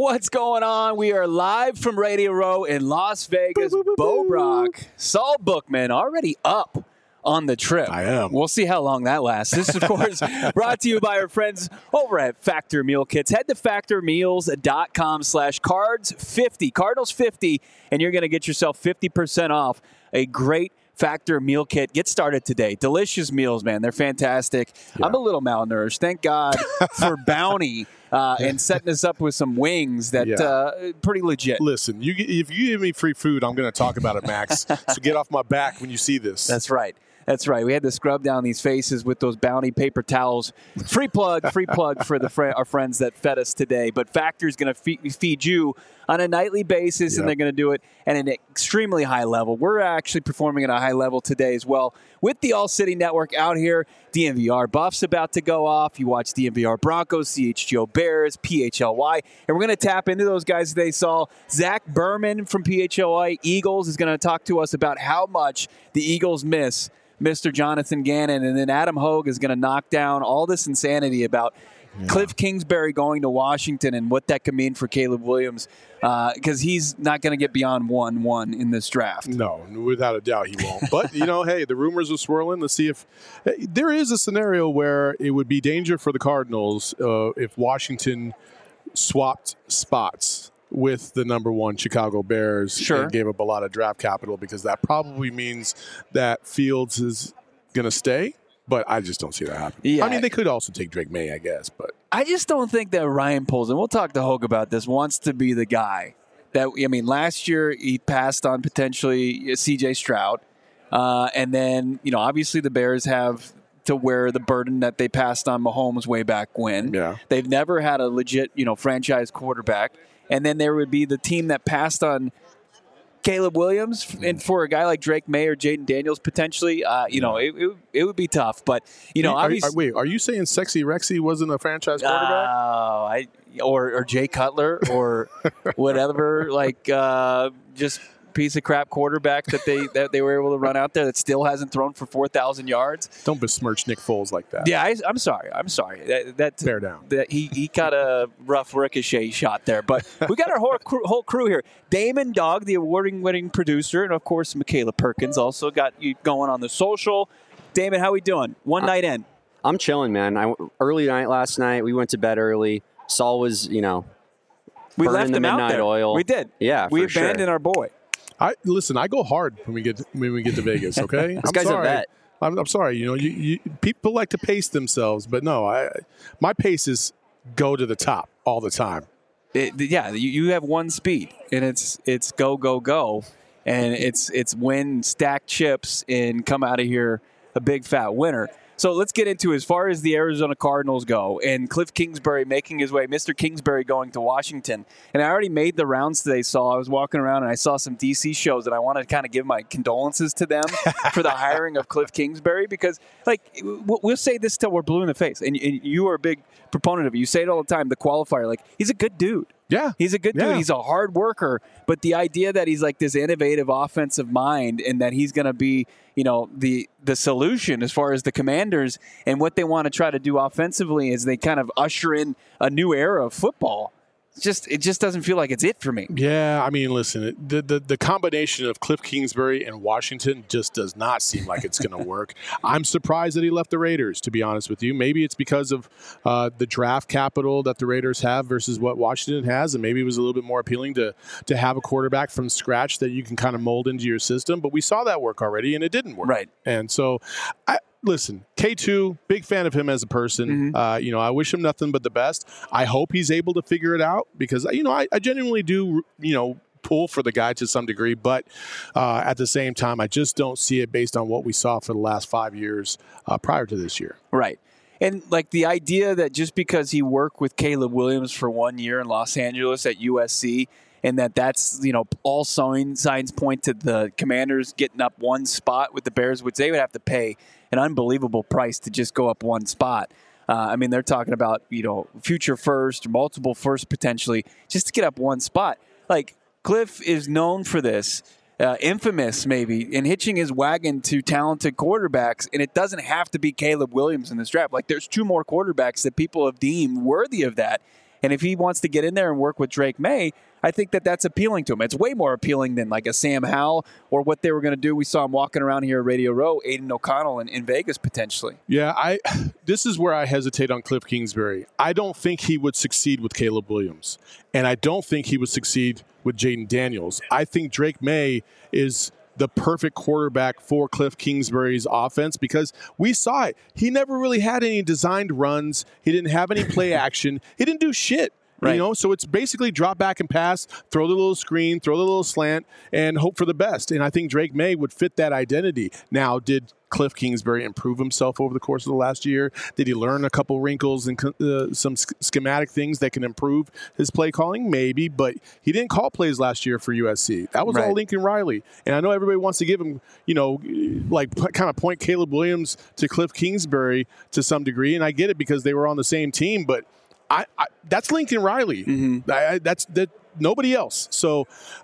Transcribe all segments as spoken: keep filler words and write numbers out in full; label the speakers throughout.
Speaker 1: What's going on? We are live from Radio Row in Las Vegas.
Speaker 2: Boo, boo, boo,
Speaker 1: Bo
Speaker 2: boo.
Speaker 1: Brock, Saul Bookman already up on the trip.
Speaker 2: I am.
Speaker 1: We'll see how long that lasts. This is, of course, brought to you by our friends over at Factor Meal Kits. Head to factor meals dot com slash cards fifty, Cardinals fifty, and you're going to get yourself fifty percent off a great Factor Meal Kit. Get started today. Delicious meals, man. They're fantastic. Yeah. I'm a little malnourished. Thank God for Bounty uh, and setting us up with some wings that
Speaker 2: yeah.
Speaker 1: uh, pretty legit.
Speaker 2: Listen, you if you give me free food, I'm going to talk about it, Max. So get off my back when you see this.
Speaker 1: That's right. That's right. We had to scrub down these faces with those Bounty paper towels. Free plug, free plug for the fr- our friends that fed us today. But Factor is going to fe- feed you on a nightly basis, yep. and they're going to do it at an extremely high level. We're actually performing at a high level today as well with the All City Network out here. D N V R Buffs about to go off. You watch D N V R Broncos, C H G O Bears, P H L Y. And we're going to tap into those guys today. Saw Zach Berman from P H L Y Eagles is going to talk to us about how much the Eagles miss Mister Jonathan Gannon, and then Adam Hogue is going to knock down all this insanity about yeah. Cliff Kingsbury going to Washington and what that could mean for Caleb Williams, because uh, he's not going to get beyond one one in this draft.
Speaker 2: No, without a doubt he won't. But, you know, hey, the rumors are swirling. Let's see if hey, there is a scenario where it would be danger for the Cardinals uh, if Washington swapped spots with the number one Chicago Bears
Speaker 1: sure.
Speaker 2: and gave up a lot of draft capital, because that probably means that Fields is going to stay, but I just don't see that happening.
Speaker 1: Yeah.
Speaker 2: I mean, they could also take Drake May, I guess, but
Speaker 1: I just don't think that Ryan Poles, and we'll talk to Hogue about this, wants to be the guy that, I mean, last year he passed on potentially C J Stroud, uh, and then, you know, obviously the Bears have to wear the burden that they passed on Mahomes way back when.
Speaker 2: Yeah.
Speaker 1: They've never had a legit, you know, franchise quarterback. And then there would be the team that passed on Caleb Williams, and for a guy like Drake May or Jaden Daniels potentially, uh, you know, it, it it would be tough. But you know,
Speaker 2: are,
Speaker 1: obviously,
Speaker 2: are, wait, are you saying Sexy Rexy wasn't a franchise quarterback?
Speaker 1: Oh, uh, I or or Jay Cutler or whatever, like uh, just piece of crap quarterback that they that they were able to run out there that still hasn't thrown for four thousand yards.
Speaker 2: Don't besmirch Nick Foles like that.
Speaker 1: Yeah, I, I'm sorry. I'm sorry. That, that
Speaker 2: bear down.
Speaker 1: That he he got a rough ricochet shot there, but we got our whole crew, whole crew here. Damon Dog, the award-winning producer, and of course Michaela Perkins also got you going on the social. Damon, how we doing? One night in.
Speaker 3: I'm chilling, man. I early night last night. We went to bed early. Saul was, you know,
Speaker 1: we left
Speaker 3: the
Speaker 1: him
Speaker 3: midnight
Speaker 1: out there.
Speaker 3: oil.
Speaker 1: We did.
Speaker 3: Yeah,
Speaker 1: we
Speaker 3: for
Speaker 1: abandoned
Speaker 3: sure.
Speaker 1: our boy.
Speaker 2: I listen. I go hard when we get to, when we get to Vegas. Okay,
Speaker 3: this
Speaker 2: I'm
Speaker 3: guy's
Speaker 2: sorry.
Speaker 3: a vet.
Speaker 2: I'm, I'm sorry. You know, you, you people like to pace themselves, but no, I my pace is go to the top all the time.
Speaker 1: It, yeah, you, you have one speed, and it's it's go go go, and it's it's win, stack chips, and come out of here a big fat winner. So let's get into as far as the Arizona Cardinals go and Cliff Kingsbury making his way, Mister Kingsbury going to Washington. And I already made the rounds today, Saul. I was walking around and I saw some D C shows, and I want to kind of give my condolences to them for the hiring of Cliff Kingsbury, because, like, we'll say this till we're blue in the face. And you are a big proponent of it. You say it all the time, the qualifier. Like, he's a good dude.
Speaker 2: Yeah.
Speaker 1: He's a good dude.
Speaker 2: Yeah.
Speaker 1: He's a hard worker. But the idea that he's like this innovative offensive mind and that he's going to be, you know, the the solution as far as the Commanders and what they want to try to do offensively is they kind of usher in a new era of football. It's just it just doesn't feel like it's it for me.
Speaker 2: Yeah, I mean, listen, it, the, the the combination of Cliff Kingsbury and Washington just does not seem like it's going to work. I'm surprised that he left the Raiders, to be honest with you. Maybe it's because of uh, the draft capital that the Raiders have versus what Washington has, and maybe it was a little bit more appealing to to have a quarterback from scratch that you can kind of mold into your system. But we saw that work already, and it didn't work.
Speaker 1: Right.
Speaker 2: And so, I. Listen, K two, big fan of him as a person.
Speaker 1: Mm-hmm.
Speaker 2: Uh, you know, I wish him nothing but the best. I hope he's able to figure it out because, you know, I, I genuinely do, you know, pull for the guy to some degree. But uh, at the same time, I just don't see it based on what we saw for the last five years uh, prior to this year.
Speaker 1: Right. And, like, the idea that just because he worked with Caleb Williams for one year in Los Angeles at U S C and that that's, you know, all sign, signs point to the Commanders getting up one spot with the Bears, which they would have to pay an unbelievable price to just go up one spot. Uh, I mean, they're talking about, you know, future first, multiple first potentially, just to get up one spot. Like, Cliff is known for this, uh, infamous maybe, in hitching his wagon to talented quarterbacks, and it doesn't have to be Caleb Williams in this draft. Like, there's two more quarterbacks that people have deemed worthy of that. And if he wants to get in there and work with Drake May, I think that that's appealing to him. It's way more appealing than like a Sam Howell or what they were going to do. We saw him walking around here at Radio Row, Aiden O'Connell in, in Vegas potentially.
Speaker 2: Yeah, I. This is where I hesitate on Cliff Kingsbury. I don't think he would succeed with Caleb Williams, and I don't think he would succeed with Jaden Daniels. I think Drake May is the perfect quarterback for Cliff Kingsbury's offense because we saw it. He never really had any designed runs. He didn't have any play action. He didn't do shit. Right. You know, so it's basically drop back and pass, throw the little screen, throw the little slant, and hope for the best. And I think Drake May would fit that identity. Now, did Cliff Kingsbury improve himself over the course of the last year? Did he learn a couple wrinkles and uh, some schematic things that can improve his play calling? Maybe, but he didn't call plays last year for U S C. That was right. all Lincoln Riley. And I know everybody wants to give him, you know, like kind of point Caleb Williams to Cliff Kingsbury to some degree. And I get it because they were on the same team, but I, I, that's Lincoln Riley. Mm-hmm. I, that's that nobody else. So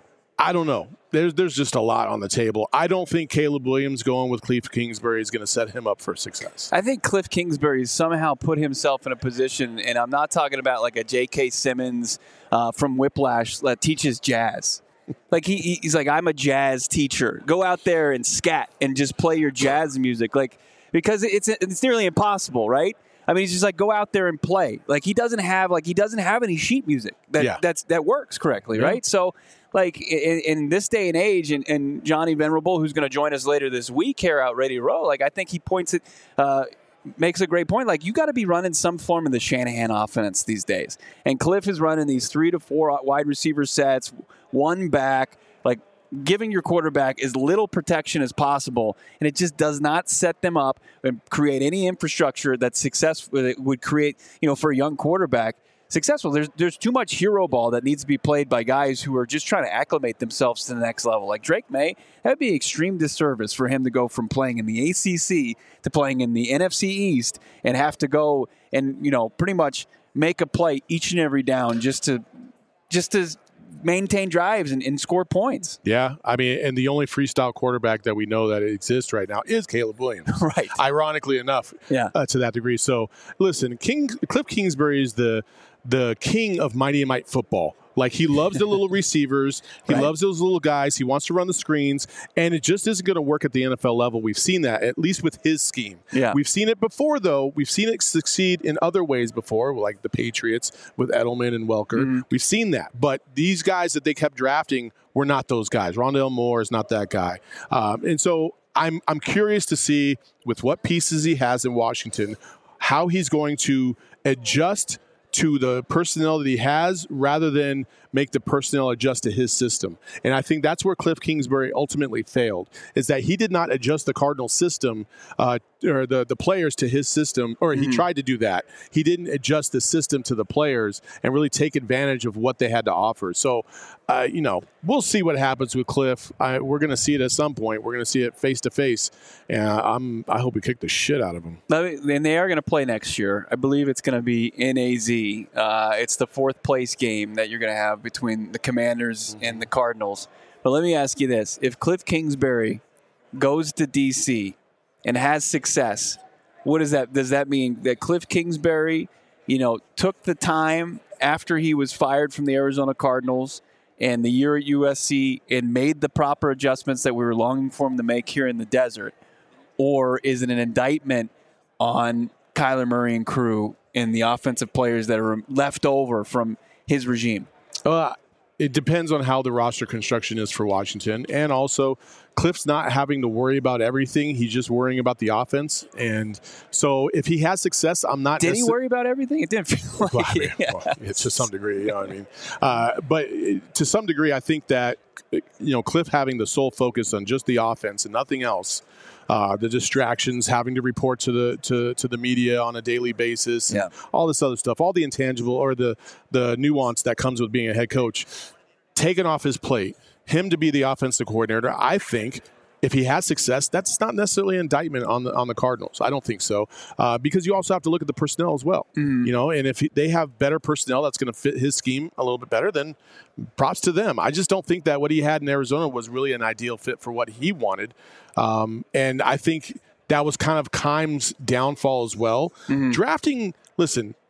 Speaker 2: I don't know. There's there's just a lot on the table. I don't think Caleb Williams going with Cliff Kingsbury is going to set him up for success.
Speaker 1: I think Cliff Kingsbury somehow put himself in a position, and I'm not talking about like a J K. Simmons uh, from Whiplash that teaches jazz. Like he he's like, I'm a jazz teacher. Go out there and scat and just play your jazz music, like because it's it's nearly impossible, right? I mean, he's just like, go out there and play. Like he doesn't have like he doesn't have any sheet music that yeah. that's that works correctly, yeah. right? So, like in, in this day and age, and, and Johnny Venerable, who's going to join us later this week here out Radio Row, like I think he points it, uh, makes a great point. Like you got to be running some form of the Shanahan offense these days, and Cliff is running these three to four wide receiver sets, one back, like. Giving your quarterback as little protection as possible, and it just does not set them up and create any infrastructure that's successful. That would create, you know, for a young quarterback successful. There's there's too much hero ball that needs to be played by guys who are just trying to acclimate themselves to the next level. Like Drake May, that would be an extreme disservice for him to go from playing in the A C C to playing in the N F C East and have to go and you know pretty much make a play each and every down just to just to. maintain drives and, and score points.
Speaker 2: Yeah, I mean, and the only freestyle quarterback that we know that exists right now is Caleb Williams.
Speaker 1: Right.
Speaker 2: Ironically enough,
Speaker 1: yeah.
Speaker 2: uh, to that degree. So, listen, King Cliff Kingsbury is the the king of Mighty and Might football. Like, he loves the little receivers. He right. loves those little guys. He wants to run the screens. And it just isn't going to work at the N F L level. We've seen that, at least with his scheme.
Speaker 1: Yeah.
Speaker 2: We've seen it before, though. We've seen it succeed in other ways before, like the Patriots with Edelman and Welker. Mm-hmm. We've seen that. But these guys that they kept drafting were not those guys. Rondale Moore is not that guy. Um, and so I'm I'm curious to see, with what pieces he has in Washington, how he's going to adjust to the personnel that he has rather than make the personnel adjust to his system. And I think that's where Cliff Kingsbury ultimately failed, is that he did not adjust the Cardinals system uh, or the, the players to his system, or mm-hmm. he tried to do that. He didn't adjust the system to the players and really take advantage of what they had to offer. So, uh, you know, we'll see what happens with Cliff. I, we're going to see it at some point. We're going to see it face to face. And I'm, I hope we kick the shit out of him.
Speaker 1: And they are going to play next year. I believe it's going to be in A Z. Uh, it's the fourth place game that you're going to have between the Commanders mm-hmm. and the Cardinals. But let me ask you this. If Cliff Kingsbury goes to D C and has success, what does that, does that mean that Cliff Kingsbury, you know, took the time after he was fired from the Arizona Cardinals and the year at U S C and made the proper adjustments that we were longing for him to make here in the desert? Or is it an indictment on Kyler Murray and crew and the offensive players that are left over from his regime?
Speaker 2: Uh, it depends on how the roster construction is for Washington. And also, Cliff's not having to worry about everything. He's just worrying about the offense. And so if he has success, I'm not...
Speaker 1: Did necess- he worry about everything? It didn't feel like
Speaker 2: well, I mean,
Speaker 1: it.
Speaker 2: Well, it's to some degree, you know what I mean? Uh, but to some degree, I think that, you know, Cliff having the sole focus on just the offense and nothing else, Uh, the distractions, having to report to the to, to the media on a daily basis,
Speaker 1: yeah.
Speaker 2: all this other stuff, all the intangible or the the nuance that comes with being a head coach, taken off his plate, him to be the offensive coordinator. I think if he has success, that's not necessarily an indictment on the on the Cardinals. I don't think so, uh, because you also have to look at the personnel as well. Mm. You know, and if he, they have better personnel that's going to fit his scheme a little bit better, then props to them. I just don't think that what he had in Arizona was really an ideal fit for what he wanted. Um, and I think that was kind of Keim's downfall as well. Mm-hmm. Drafting, listen,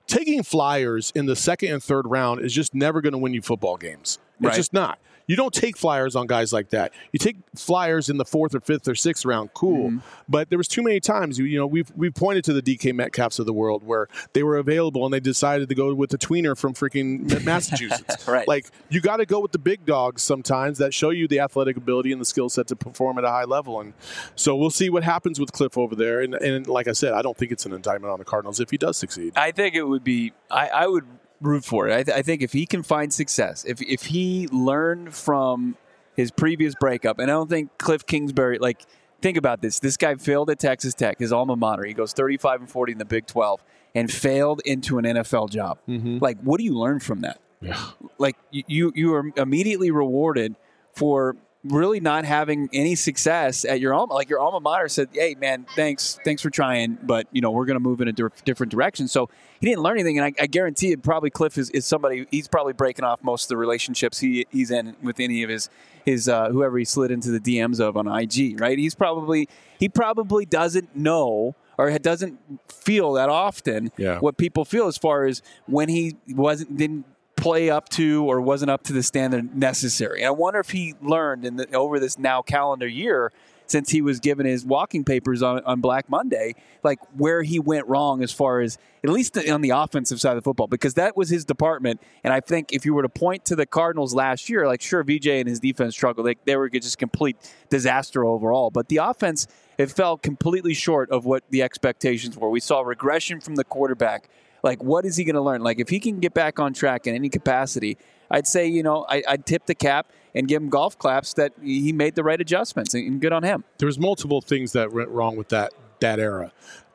Speaker 2: taking flyers in the second and third round is just never going to win you football games. It's
Speaker 1: Right.
Speaker 2: just not. You don't take flyers on guys like that. You take flyers in the fourth or fifth or sixth round, cool.
Speaker 1: Mm-hmm.
Speaker 2: But there was too many times, you, you know, we've we've pointed to the D K Metcalfs of the world where they were available and they decided to go with the tweener from freaking Massachusetts.
Speaker 1: Right.
Speaker 2: Like, you got to go with the big dogs sometimes that show you the athletic ability and the skill set to perform at a high level. And so we'll see what happens with Cliff over there. And, and like I said, I don't think it's an indictment on the Cardinals if he does succeed.
Speaker 1: I think it would be. I, I would root for it. I, th- I think if he can find success, if if he learned from his previous breakup, and I don't think Cliff Kingsbury. Like, think about this. This guy failed at Texas Tech, his alma mater. He goes thirty-five and forty in the Big twelve, and failed into an N F L job.
Speaker 2: Mm-hmm.
Speaker 1: Like, what do you learn from that?
Speaker 2: Yeah.
Speaker 1: Like, you you, you are immediately rewarded for really not having any success at your alma. Like, your alma mater said, "Hey, man, thanks, thanks for trying, but you know we're going to move in a di- different direction." So he didn't learn anything, and I, I guarantee it. Probably Cliff is, is somebody. He's probably breaking off most of the relationships he he's in with any of his his uh, whoever he slid into the D Ms of on I G. Right? He's probably he probably doesn't know or doesn't feel that often
Speaker 2: Yeah.
Speaker 1: what people feel as far as when he wasn't didn't play up to or wasn't up to the standard necessary. And I wonder if he learned in the, over this now calendar year, since he was given his walking papers on, on Black Monday, like where he went wrong as far as at least on the offensive side of the football, because that was his department. And I think if you were to point to the Cardinals last year, like sure, V J and his defense struggled. They, they were just complete disaster overall. But the offense, it fell completely short of what the expectations were. We saw regression from the quarterback. Like, what is he going to learn? Like, if he can get back on track in any capacity, I'd say, you know, I, I'd tip the cap and give him golf claps that he made the right adjustments, and good on him.
Speaker 2: There was multiple things that went wrong with that that era.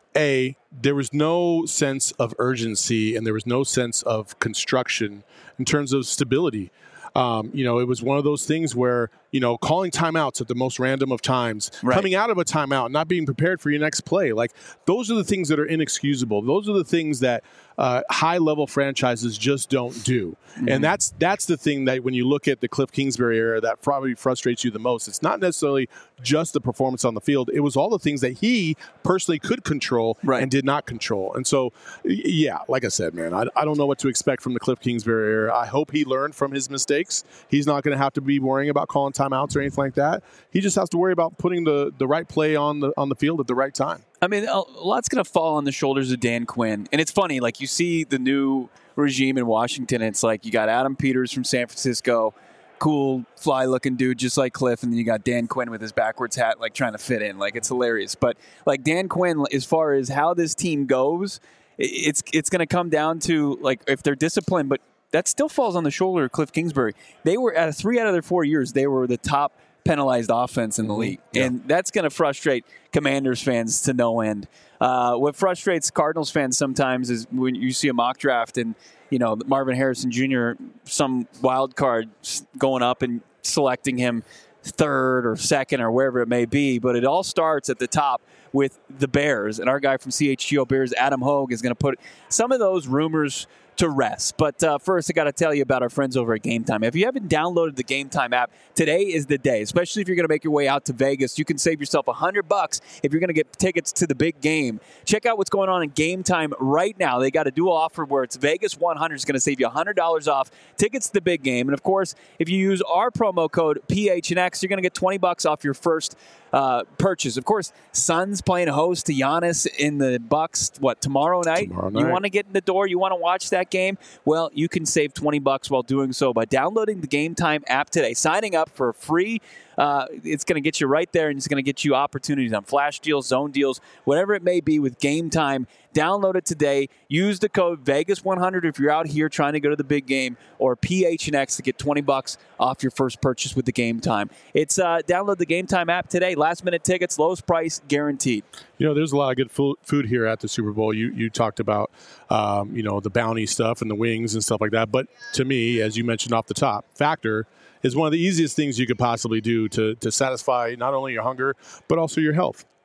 Speaker 2: A, there was no sense of urgency and there was no sense of construction in terms of stability. Um, you know, it was one of those things where, you know, calling timeouts at the most random of times,
Speaker 1: Right.
Speaker 2: coming out of a timeout, not being prepared for your next play. Like, those are the things that are inexcusable. Those are the things that uh, high-level franchises just don't do. Mm-hmm. And that's that's the thing that when you look at the Cliff Kingsbury era, that probably frustrates you the most. It's not necessarily just the performance on the field. It was all the things that he personally could control
Speaker 1: Right.
Speaker 2: and did not control. And so, yeah, like I said, man, I, I don't know what to expect from the Cliff Kingsbury era. I hope he learned from his mistakes. He's not going to have to be worrying about calling timeouts or anything like that. He just has to worry about putting the, the right play on the on the field at the right time.
Speaker 1: I mean, a lot's going to fall on the shoulders of Dan Quinn. And it's funny, like you see the new regime in Washington, and it's like you got Adam Peters from San Francisco, cool, fly-looking dude just like Cliff, and then you got Dan Quinn with his backwards hat, like trying to fit in. Like, it's hilarious. But, like, Dan Quinn, as far as how this team goes, it's it's going to come down to, like, if they're disciplined, but that still falls on the shoulder of Cliff Kingsbury. They were, at three out of their four years, they were the top penalized offense in the league.
Speaker 2: Yeah.
Speaker 1: And that's going to frustrate Commanders fans to no end. Uh, what frustrates Cardinals fans sometimes is when you see a mock draft and, you know, Marvin Harrison Junior, some wild card going up and selecting him third or second or wherever it may be. But it all starts at the top with the Bears. And our guy from C H G O Bears, Adam Hogue, is going to put some of those rumors to rest. But uh, first, I got to tell you about our friends over at Game Time. If you haven't downloaded the Game Time app, today is the day, especially if you're going to make your way out to Vegas. You can save yourself one hundred bucks if you're going to get tickets to the big game. Check out what's going on in Game Time right now. They got a dual offer where it's Vegas one hundred is going to save you one hundred dollars off tickets to the big game. And, of course, if you use our promo code P H N X, you're going to get twenty bucks off your first uh, purchase. Of course, Suns playing host to Giannis in the Bucks, what, tomorrow night?
Speaker 2: Tomorrow night.
Speaker 1: You want to get in the door? You want to watch that game? Well, you can save twenty bucks while doing so by downloading the Game Time app today. Signing up for free, uh, it's going to get you right there, and it's going to get you opportunities on flash deals, zone deals, whatever it may be with Game Time. Download it today. Use the code Vegas one hundred if you're out here trying to go to the big game, or P H N X to get twenty bucks off your first purchase with the Game Time. It's uh, download the Game Time app today. Last minute tickets, lowest price guaranteed.
Speaker 2: You know, there's a lot of good food food here at the Super Bowl. You you talked about, um, you know, the bounty stuff and the wings and stuff like that. But to me, as you mentioned off the top, Factor is one of the easiest things you could possibly do to to satisfy not only your hunger but also your health.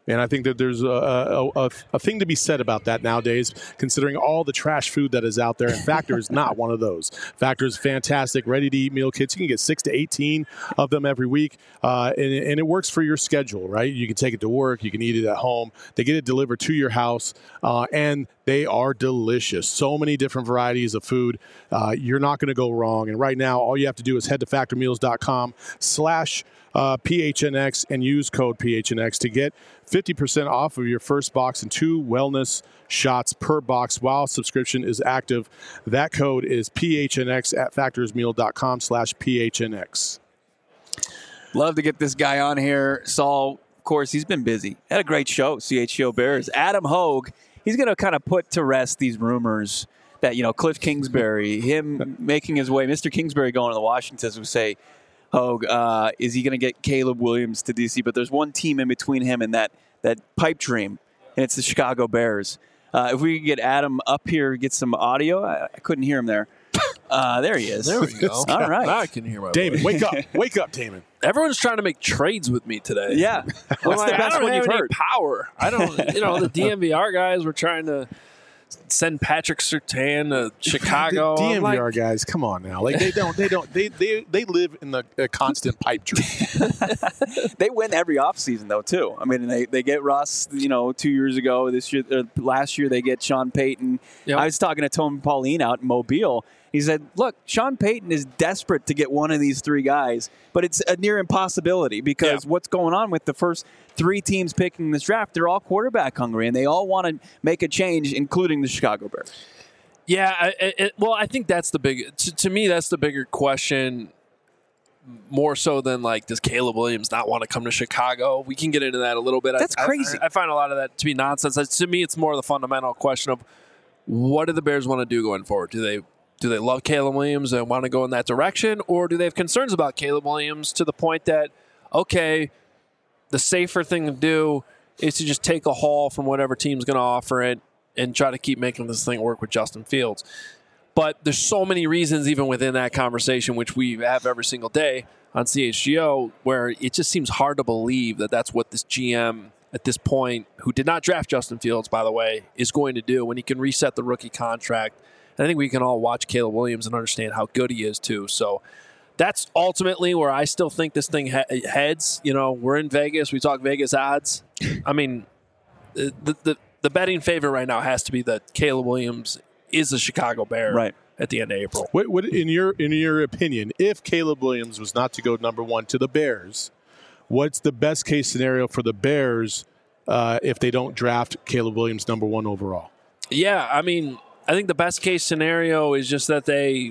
Speaker 2: And I think that there's a, a, a, a thing to be said about that nowadays, considering all the trash food that is out there. And Factor is not one of those. Factor is fantastic, ready-to-eat meal kits. You can get six to eighteen of them every week, uh, and, and it works for your schedule, right? You can take it to work. You can eat it at home. They get it delivered to your house, uh, and they are delicious. So many different varieties of food. Uh, you're not going to go wrong. And right now, all you have to do is head to factormeals.com slash Uh, P H N X and use code P H N X to get fifty percent off of your first box and two wellness shots per box while subscription is active. That code is P H N X at factorsmeal.com slash PHNX.
Speaker 1: Love to get this guy on here. Saul, of course, he's been busy. Had a great show, C H G O Bears. Adam Hogue, he's going to kind of put to rest these rumors that, you know, Cliff Kingsbury, him making his way, Mister Kingsbury going to the Washingtons would say, Hogue, uh, is he going to get Caleb Williams to D C? But there's one team in between him and that that pipe dream, and it's the Chicago Bears. Uh, if we could get Adam up here, get some audio. I, I couldn't hear him there. Uh, there he is.
Speaker 4: There we go.
Speaker 1: All right.
Speaker 4: Now I can hear my
Speaker 2: Damon,
Speaker 4: voice.
Speaker 2: wake up. Wake up, Damon.
Speaker 4: Everyone's trying to make trades with me today.
Speaker 1: Yeah. What's
Speaker 4: I'm
Speaker 1: the
Speaker 4: like,
Speaker 1: best
Speaker 4: I don't
Speaker 1: one
Speaker 4: have
Speaker 1: you've
Speaker 4: any
Speaker 1: heard?
Speaker 4: power. I don't, you know, the D M V R guys were trying to send Patrick Surtain to Chicago.
Speaker 2: The D M V R
Speaker 4: I'm like,
Speaker 2: guys, come on now. Like they don't, they don't, they they, they live in the uh, constant pipe dream.
Speaker 1: They win every offseason, though, too. I mean, they, they get Russ, you know, two years ago. This year, uh, last year, they get Sean Payton.
Speaker 4: Yep.
Speaker 1: I was talking to Tony Pauline out in Mobile. He said, look, Sean Payton is desperate to get one of these three guys, but it's a near impossibility because
Speaker 4: Yeah.
Speaker 1: what's going on with the first three teams picking this draft, they're all quarterback hungry, and they all want to make a change, including the Chicago Bears.
Speaker 4: Yeah, I, it, well, I think that's the big. To, to me, that's the bigger question. More so than like, does Caleb Williams not want to come to Chicago? We can get into that a little bit.
Speaker 1: That's
Speaker 4: I,
Speaker 1: crazy.
Speaker 4: I, I find a lot of that to be nonsense. To me, it's more the fundamental question of what do the Bears want to do going forward? Do they do they love Caleb Williams and want to go in that direction, or do they have concerns about Caleb Williams to the point that okay, the safer thing to do is to just take a haul from whatever team's going to offer it and try to keep making this thing work with Justin Fields. But there's so many reasons even within that conversation, which we have every single day on C H G O, where it just seems hard to believe that that's what this G M at this point, who did not draft Justin Fields, by the way, is going to do when he can reset the rookie contract. And I think we can all watch Caleb Williams and understand how good he is, too. So that's ultimately where I still think this thing he- heads. You know, we're in Vegas. We talk Vegas odds. I mean, the, the the betting favorite right now has to be that Caleb Williams is a Chicago Bear
Speaker 1: Right.
Speaker 4: at the end of April.
Speaker 2: What, what in your in your opinion, if Caleb Williams was not to go number one to the Bears, what's the best case scenario for the Bears uh, if they don't draft Caleb Williams number one overall?
Speaker 4: Yeah, I mean, I think the best case scenario is just that they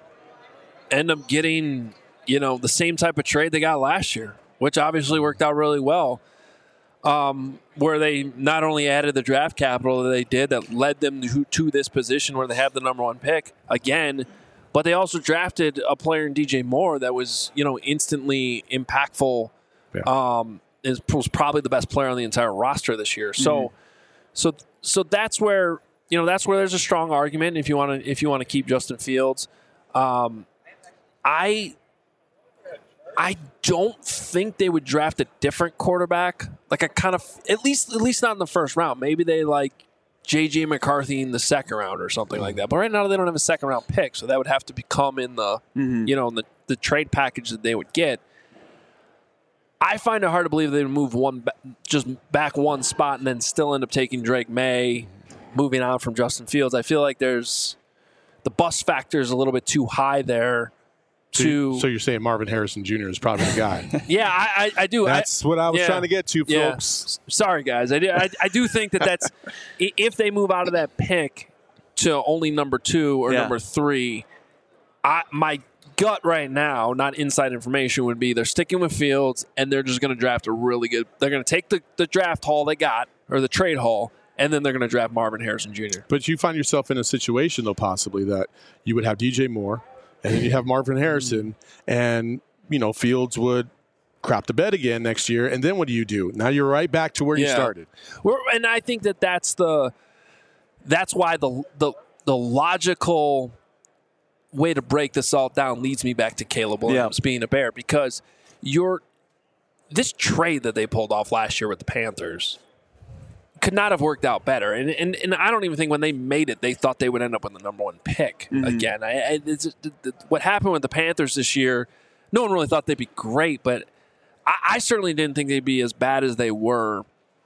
Speaker 4: end up getting, you know, the same type of trade they got last year, which obviously worked out really well. Um, where they not only added the draft capital that they did that led them to, to this position where they have the number one pick again, but they also drafted a player in D J Moore that was, you know, instantly impactful.
Speaker 2: Yeah.
Speaker 4: Um, is was probably the best player on the entire roster this year. So,
Speaker 1: Mm-hmm.
Speaker 4: so, so that's where you know that's where there's a strong argument if you want to if you want to keep Justin Fields. Um, I. I don't think they would draft a different quarterback. Like I kind of, at least, at least not in the first round. Maybe they like J J McCarthy in the second round or something like that. But right now they don't have a second round pick, so that would have to become in the,
Speaker 1: Mm-hmm.
Speaker 4: you know, in the, the trade package that they would get. I find it hard to believe they would move one, just back one spot and then still end up taking Drake May, moving on from Justin Fields. I feel like there's the bust factor is a little bit too high there.
Speaker 2: So,
Speaker 4: To,
Speaker 2: so you're saying Marvin Harrison Junior is probably the guy.
Speaker 4: yeah, I, I, I do.
Speaker 2: That's
Speaker 4: I,
Speaker 2: what I was
Speaker 4: yeah.
Speaker 2: trying to get to,
Speaker 4: Yeah.
Speaker 2: folks.
Speaker 4: Sorry, guys. I do, I, I do think that that's i- if they move out of that pick to only number two or
Speaker 1: Yeah.
Speaker 4: number three, I, my gut right now, not inside information, would be they're sticking with Fields and they're just going to draft a really good. They're going to take the, the draft haul they got or the trade haul, and then they're going to draft Marvin Harrison Junior
Speaker 2: But you find yourself in a situation, though, possibly that you would have D J Moore, and then you have Marvin Harrison, and you know Fields would crap the bed again next year, and then what do you do? Now you're right back to where you
Speaker 4: Yeah.
Speaker 2: started.
Speaker 4: We're, and I think that that's the that's why the the the logical way to break this all down leads me back to Caleb Williams being a Bear, because you're this trade that they pulled off last year with the Panthers could not have worked out better. And and, and I don't even think when they made it, they thought they would end up with the number one pick mm-hmm. again. I, I, it's, it, it, what happened with the Panthers this year, no one really thought they'd be great, but I, I certainly didn't think they'd be as bad as they were.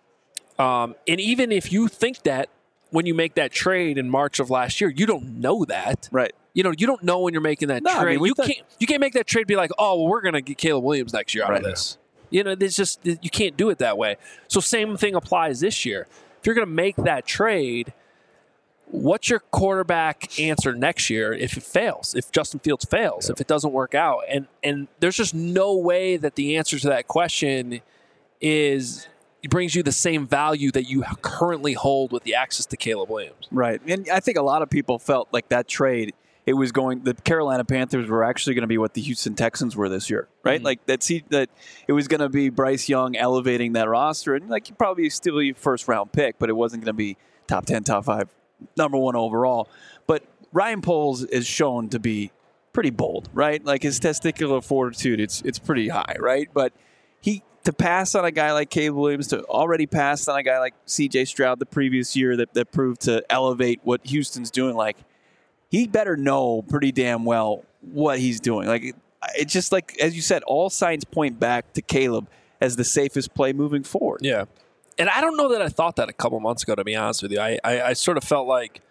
Speaker 4: Um, and even if you think that when you make that trade in March of last year, you don't know that.
Speaker 1: Right.
Speaker 4: You know, you don't know when you're making that
Speaker 1: no,
Speaker 4: trade.
Speaker 1: I mean,
Speaker 4: you
Speaker 1: thought-
Speaker 4: can't you can't make that trade and be like, oh, well, we're going to get Caleb Williams next year out
Speaker 1: right.
Speaker 4: of this. You know, there's just you can't do it that way. So same thing applies this year. If you're going to make that trade, what's your quarterback answer next year if it fails? If Justin Fields fails, yeah. if it doesn't work out, and and there's just no way that the answer to that question is it brings you the same value that you currently hold with the access to Caleb Williams.
Speaker 1: Right, and I think a lot of people felt like that trade. It was going. The Carolina Panthers were actually going to be what the Houston Texans were this year, right? Mm-hmm. Like that. See that it was going to be Bryce Young elevating that roster, and like you probably still be a first round pick, but it wasn't going to be top ten, top five, number one overall. But Ryan Poles is shown to be pretty bold, right? Like his testicular fortitude, it's it's pretty high, right? But he to pass on a guy like Caleb Williams, to already pass on a guy like C J Stroud the previous year that that proved to elevate what Houston's doing, like. He better know pretty damn well what he's doing. Like it's just like, as you said, all signs point back to Caleb as the safest play moving forward.
Speaker 4: Yeah. And I don't know that I thought that a couple months ago, to be honest with you. I, I, I sort of felt like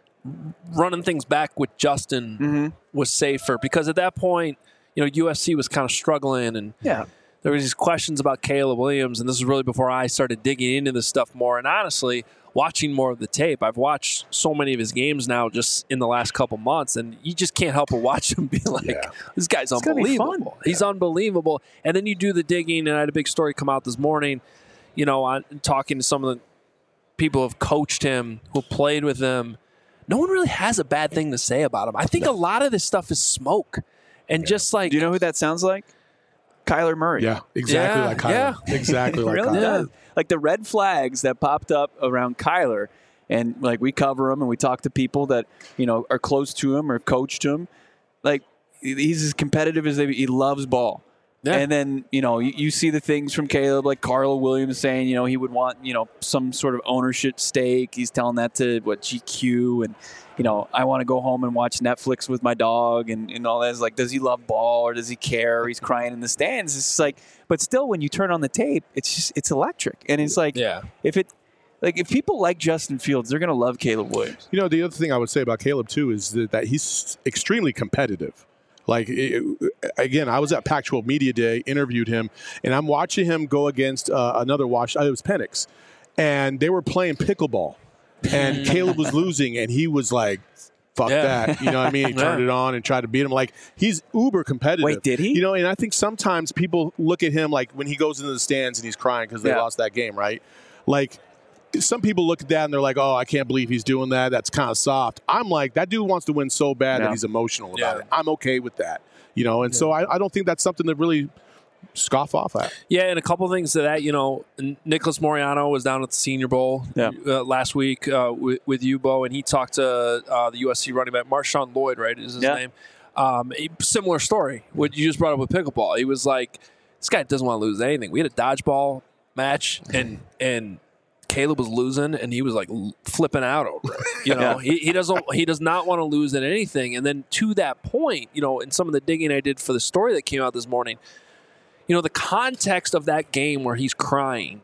Speaker 4: running things back with Justin mm-hmm. was safer because at that point, you know, U S C was kind of struggling and
Speaker 1: yeah.
Speaker 4: there was these questions about Caleb Williams, and this is really before I started digging into this stuff more. And honestly, watching more of the tape, I've watched so many of his games now just in the last couple months, and you just can't help but watch him be like, yeah. this guy's it's unbelievable. He's yeah. unbelievable. And then you do the digging, and I had a big story come out this morning, you know, on talking to some of the people who have coached him, who played with him. No one really has a bad thing to say about him. I think no. a lot of this stuff is smoke. And yeah. just like...
Speaker 1: Do you know who that sounds like? Kyler Murray.
Speaker 2: Yeah, exactly
Speaker 4: yeah,
Speaker 2: like Kyler.
Speaker 4: Yeah.
Speaker 2: Exactly like
Speaker 1: really
Speaker 2: Kyler.
Speaker 1: Does. Like the red flags that popped up around Kyler, and like we cover him and we talk to people that, you know, are close to him or coached him. Like he's as competitive as they he loves ball. Yeah. And then, you know, you, you see the things from Caleb, like Carl Williams saying, you know, he would want, you know, some sort of ownership stake. He's telling that to, what, G Q. And, you know, I want to go home and watch Netflix with my dog and, and all that. It's like, does he love ball or does he care? Or he's crying in the stands. It's just like, but still, when you turn on the tape, it's just, it's electric. And it's like,
Speaker 4: yeah. if it,
Speaker 1: like, if people like Justin Fields, they're going to love Caleb Williams.
Speaker 2: You know, the other thing I would say about Caleb, too, is that, that he's extremely competitive. Like, it, again, I was at Pac twelve Media Day, interviewed him, and I'm watching him go against uh, another watch. It was Penix, and they were playing pickleball, and Caleb was losing, and he was like, fuck yeah. that. You know what I mean? He turned it on and tried to beat him. Like, he's uber competitive.
Speaker 1: Wait, did he?
Speaker 2: You know, and I think sometimes people look at him like when he goes into the stands and he's crying because they yeah. lost that game, right? Like, some people look at that and they're like, oh, I can't believe he's doing that. That's kind of soft. I'm like, that dude wants to win so bad yeah. that he's emotional about
Speaker 4: yeah.
Speaker 2: it. I'm okay with that. You know, and yeah. so I, I don't think that's something to really scoff off at.
Speaker 4: Yeah, and a couple of things to that, you know, Nicholas Moriano was down at the Senior Bowl
Speaker 1: yeah.
Speaker 4: uh, last week uh, with, with you, Bo, and he talked to uh, the U S C running back, Marshawn Lloyd, right, is his
Speaker 1: yeah.
Speaker 4: name. Um, a similar story, what you just brought up with pickleball. He was like, this guy doesn't want to lose anything. We had a dodgeball match, and and Caleb was losing, and he was like flipping out over it. You know, yeah. he, he doesn't he does not want to lose at anything. And then to that point, you know, in some of the digging I did for the story that came out this morning, you know, the context of that game where he's crying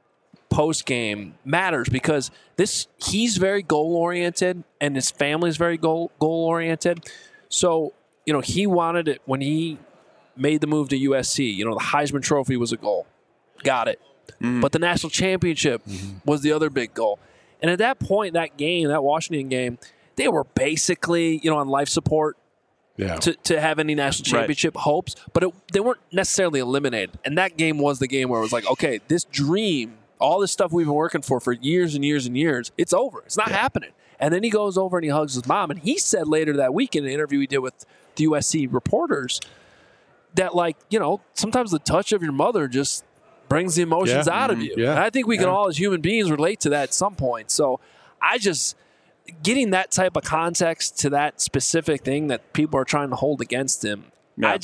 Speaker 4: post game matters because this he's very goal oriented and his family's very goal goal oriented. So, you know, he wanted it when he made the move to U S C. You know, the Heisman Trophy was a goal. Got it. Mm-hmm. But the national championship mm-hmm. was the other big goal. And at that point, that game, that Washington game, they were basically, you know, on life support yeah. to, to have any national championship right. hopes. But it, they weren't necessarily eliminated. And that game was the game where it was like, okay, this dream, all this stuff we've been working for for years and years and years, it's over. It's not yeah. happening. And then he goes over and he hugs his mom. And he said later that week in an interview he did with the U S C reporters that, like, you know, sometimes the touch of your mother just brings the emotions yeah. out of you.
Speaker 2: Yeah.
Speaker 4: And I think we
Speaker 2: yeah.
Speaker 4: can all as human beings relate to that at some point. So I just, getting that type of context to that specific thing that people are trying to hold against him, yeah. I just,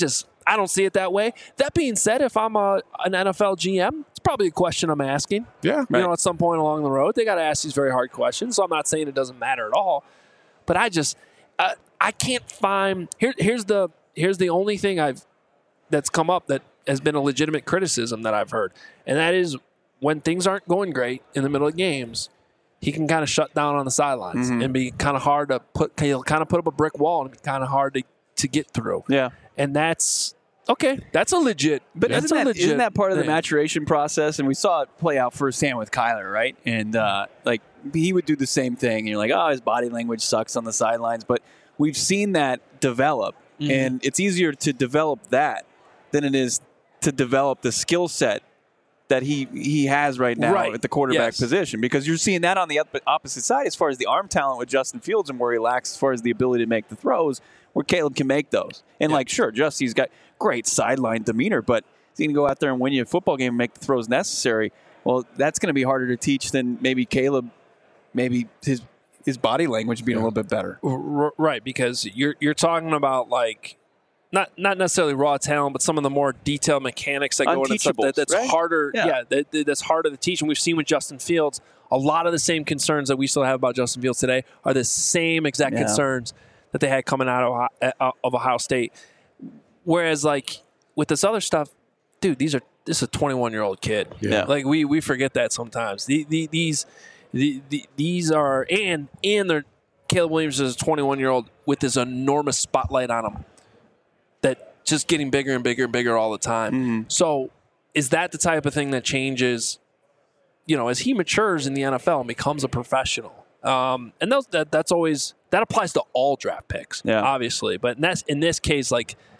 Speaker 4: I don't see it that way. That being said, if I'm a, an N F L G M, it's probably a question I'm asking.
Speaker 2: Yeah.
Speaker 4: You know, at some point along the road, they got to ask these very hard questions. So I'm not saying it doesn't matter at all, but I just uh, I can't find here. Here's the here's the only thing I've that's come up that has been a legitimate criticism that I've heard, and that is when things aren't going great in the middle of games, he can kind of shut down on the sidelines mm-hmm. and be kind of hard to put. He'll kind of put up a brick wall and be kind of hard to, to get through.
Speaker 1: Yeah,
Speaker 4: and that's. Okay, that's a legit.
Speaker 1: But
Speaker 4: that's
Speaker 1: isn't,
Speaker 4: a
Speaker 1: that,
Speaker 4: legit
Speaker 1: isn't that part of the
Speaker 4: thing.
Speaker 1: maturation process? And we saw it play out firsthand with Kyler, right? And uh, like he would do the same thing. And you're like, oh, his body language sucks on the sidelines. But we've seen that develop, mm-hmm. and it's easier to develop that than it is to develop the skill set that he he has right now
Speaker 4: right.
Speaker 1: at the quarterback
Speaker 4: yes.
Speaker 1: position. Because you're seeing that on the opposite side as far as the arm talent with Justin Fields and where he lacks as far as the ability to make the throws, where Caleb can make those. And, yeah. like, sure, Justy's got great sideline demeanor, but he's going to go out there and win you a football game and make the throws necessary. Well, that's going to be harder to teach than maybe Caleb, maybe his his body language being yeah. a little bit better.
Speaker 4: Right, because you're you're talking about, like, not not necessarily raw talent, but some of the more detailed mechanics that go into stuff that, that's
Speaker 1: right?
Speaker 4: harder.
Speaker 1: Yeah,
Speaker 4: yeah that, that's harder to teach. And we've seen with Justin Fields, a lot of the same concerns that we still have about Justin Fields today are the same exact yeah. concerns that they had coming out of, of Ohio State. Whereas, like, with this other stuff, dude, these are this is a twenty-one-year-old kid.
Speaker 1: Yeah.
Speaker 4: Like, we we forget that sometimes. The, the, these the, the, these are – and and they're Caleb Williams is a twenty-one-year-old with this enormous spotlight on him that just getting bigger and bigger and bigger all the time.
Speaker 1: Mm-hmm.
Speaker 4: So is that the type of thing that changes, you know, as he matures in the N F L and becomes a professional? Um, and those, that that's always – that applies to all draft picks,
Speaker 1: yeah.
Speaker 4: obviously. But in, that's, in this case, like –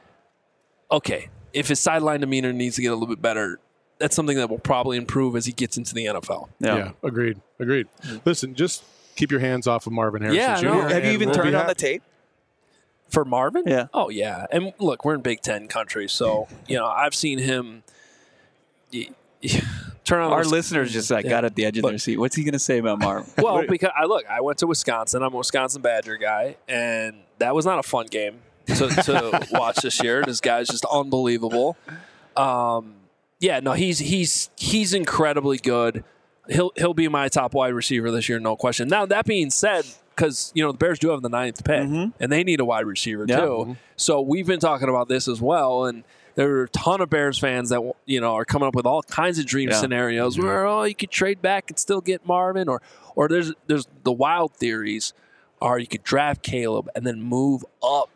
Speaker 4: okay, if his sideline demeanor needs to get a little bit better, that's something that will probably improve as he gets into the N F L.
Speaker 2: Yeah, yeah agreed. Agreed. Mm-hmm. Listen, just keep your hands off of Marvin Harrison
Speaker 4: yeah,
Speaker 2: Junior
Speaker 4: No.
Speaker 1: Have you even
Speaker 2: we'll
Speaker 1: turned on the tape?
Speaker 4: For Marvin?
Speaker 1: Yeah.
Speaker 4: Oh, yeah. And look, we're in Big Ten country, so, you know, I've seen him y- y- turn on.
Speaker 1: Our
Speaker 4: the,
Speaker 1: listeners just like, yeah. got at the edge of
Speaker 4: look,
Speaker 1: their seat. What's he going to say about Marvin?
Speaker 4: Well, because I look, I went to Wisconsin. I'm a Wisconsin Badger guy, and that was not a fun game to, to watch this year. This guy's just unbelievable. Um, yeah, no, he's he's he's incredibly good. He'll he'll be my top wide receiver this year, no question. Now that being said, because you know the Bears do have the ninth pick,
Speaker 1: mm-hmm.
Speaker 4: and they need a wide receiver
Speaker 1: yeah.
Speaker 4: too.
Speaker 1: Mm-hmm.
Speaker 4: So we've been talking about this as well, and there are a ton of Bears fans that you know are coming up with all kinds of dream
Speaker 1: yeah.
Speaker 4: scenarios
Speaker 2: mm-hmm.
Speaker 4: where oh you could trade back and still get Marvin, or or there's there's the wild theories are you could draft Caleb and then move up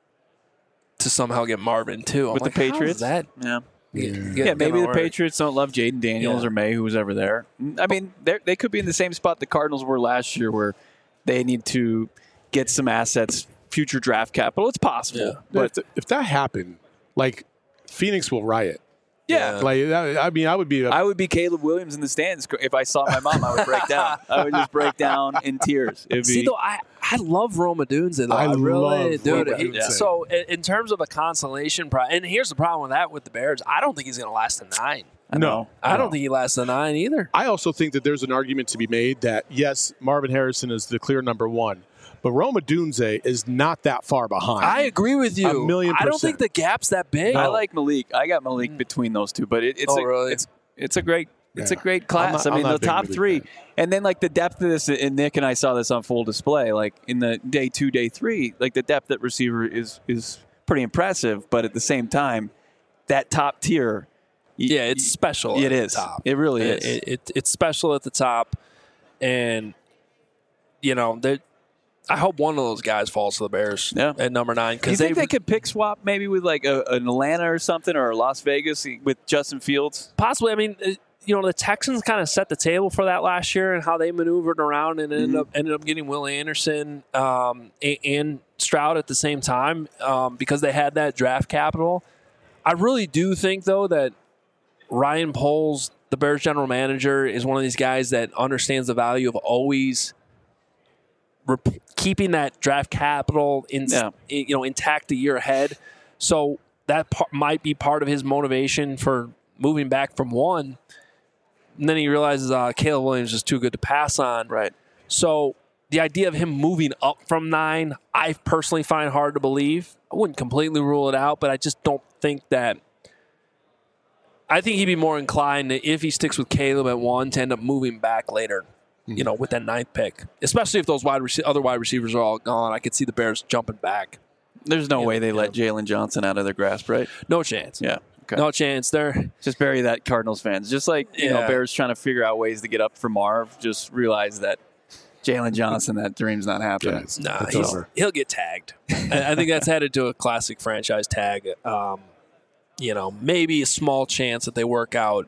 Speaker 4: to somehow get Marvin too. I'm
Speaker 1: with
Speaker 4: like,
Speaker 1: the Patriots.
Speaker 4: That
Speaker 1: yeah.
Speaker 4: Get,
Speaker 1: Yeah,
Speaker 4: get,
Speaker 1: maybe the
Speaker 4: work.
Speaker 1: Patriots don't love Jaden Daniels
Speaker 4: yeah.
Speaker 1: or May, who was ever there. I mean, they could be in the same spot the Cardinals were last year, where they need to get some assets, future draft capital. It's possible,
Speaker 4: Yeah.
Speaker 1: but
Speaker 2: if, if that happened, like Phoenix will riot.
Speaker 1: yeah,
Speaker 2: Like that, I mean, I would be. A,
Speaker 1: I would be Caleb Williams in the stands if I saw my mom. I would break down. I would just break down in tears. It'd
Speaker 4: See,
Speaker 1: be,
Speaker 4: though, I, I love Roma Dunze, though.
Speaker 2: I
Speaker 4: I, really
Speaker 2: love
Speaker 4: do.
Speaker 2: Roma
Speaker 4: He-
Speaker 2: Dunze.
Speaker 4: So, in, in terms of a consolation prize, and here's the problem with that with the Bears, I don't think he's going to last a nine.
Speaker 1: I
Speaker 2: no,
Speaker 1: know.
Speaker 4: I don't
Speaker 2: no.
Speaker 4: think he lasts a nine either.
Speaker 2: I also think that there's an argument to be made that yes, Marvin Harrison is the clear number one, but Roma Dunze is not that far behind.
Speaker 4: I agree with you.
Speaker 2: A million
Speaker 4: I don't think
Speaker 2: percent.
Speaker 4: the gap's that big.
Speaker 1: I like Malik. I got Malik between those two, but it, it's
Speaker 4: Oh,
Speaker 1: a,
Speaker 4: really?
Speaker 1: it's it's a great it's
Speaker 2: Yeah.
Speaker 1: a great
Speaker 2: I'm
Speaker 1: class.
Speaker 2: not-
Speaker 1: I mean,
Speaker 2: I'm
Speaker 1: the
Speaker 2: not big
Speaker 1: top
Speaker 2: Malik
Speaker 1: three,
Speaker 2: fan.
Speaker 1: and then like the depth of this. And Nick and I saw this on full display. Like in the day two, day three, like the depth at receiver is is pretty impressive. But at the same time, that top tier, y-
Speaker 4: Yeah, it's special.
Speaker 1: It
Speaker 4: at
Speaker 1: is.
Speaker 4: The top.
Speaker 1: It really
Speaker 4: It-
Speaker 1: is.
Speaker 4: It, it, it's special at the top, and you know that. I hope one of those guys falls to the Bears
Speaker 1: Yeah.
Speaker 4: at number nine
Speaker 1: Do you
Speaker 4: because
Speaker 1: think they could pick swap maybe with like a, an Atlanta or something, or Las Vegas with Justin Fields?
Speaker 4: possibly. I mean, uh, you know, the Texans kind of set the table for that last year and how they maneuvered around and ended
Speaker 1: Mhm.
Speaker 4: up ended up getting Will Anderson um, and, and Stroud at the same time um, because they had that draft capital. I really do think though that Ryan Poles, the Bears general manager, is one of these guys that understands the value of always rep- keeping that draft capital in,
Speaker 1: Yeah.
Speaker 4: you know intact a year ahead. So that par- might be part of his motivation for moving back from one. And then he realizes uh, Caleb Williams is too good to pass on.
Speaker 1: Right.
Speaker 4: So the idea of him moving up from nine, I personally find hard to believe. I wouldn't completely rule it out, but I just don't think that I think he'd be more inclined to, if he sticks with Caleb at one, to end up moving back later. Mm-hmm. You know, with that ninth pick, especially if those wide rec- other wide receivers are all gone, I could see the Bears jumping back.
Speaker 1: There's no
Speaker 4: you
Speaker 1: way
Speaker 4: know,
Speaker 1: they
Speaker 4: you
Speaker 1: let
Speaker 4: know.
Speaker 1: Jalen Johnson out of their grasp, right?
Speaker 4: No chance.
Speaker 1: Yeah. Okay.
Speaker 4: No chance. They're
Speaker 1: just bury that, Cardinals fans. Just like you
Speaker 4: yeah.
Speaker 1: know, Bears trying to figure out ways to get up for Marv. Just realize that Jalen Johnson, that dream's not happening.
Speaker 2: Yeah,
Speaker 4: nah, he's, he'll get tagged. I, I think that's headed to a classic franchise tag. Um, you know, maybe a small chance that they work out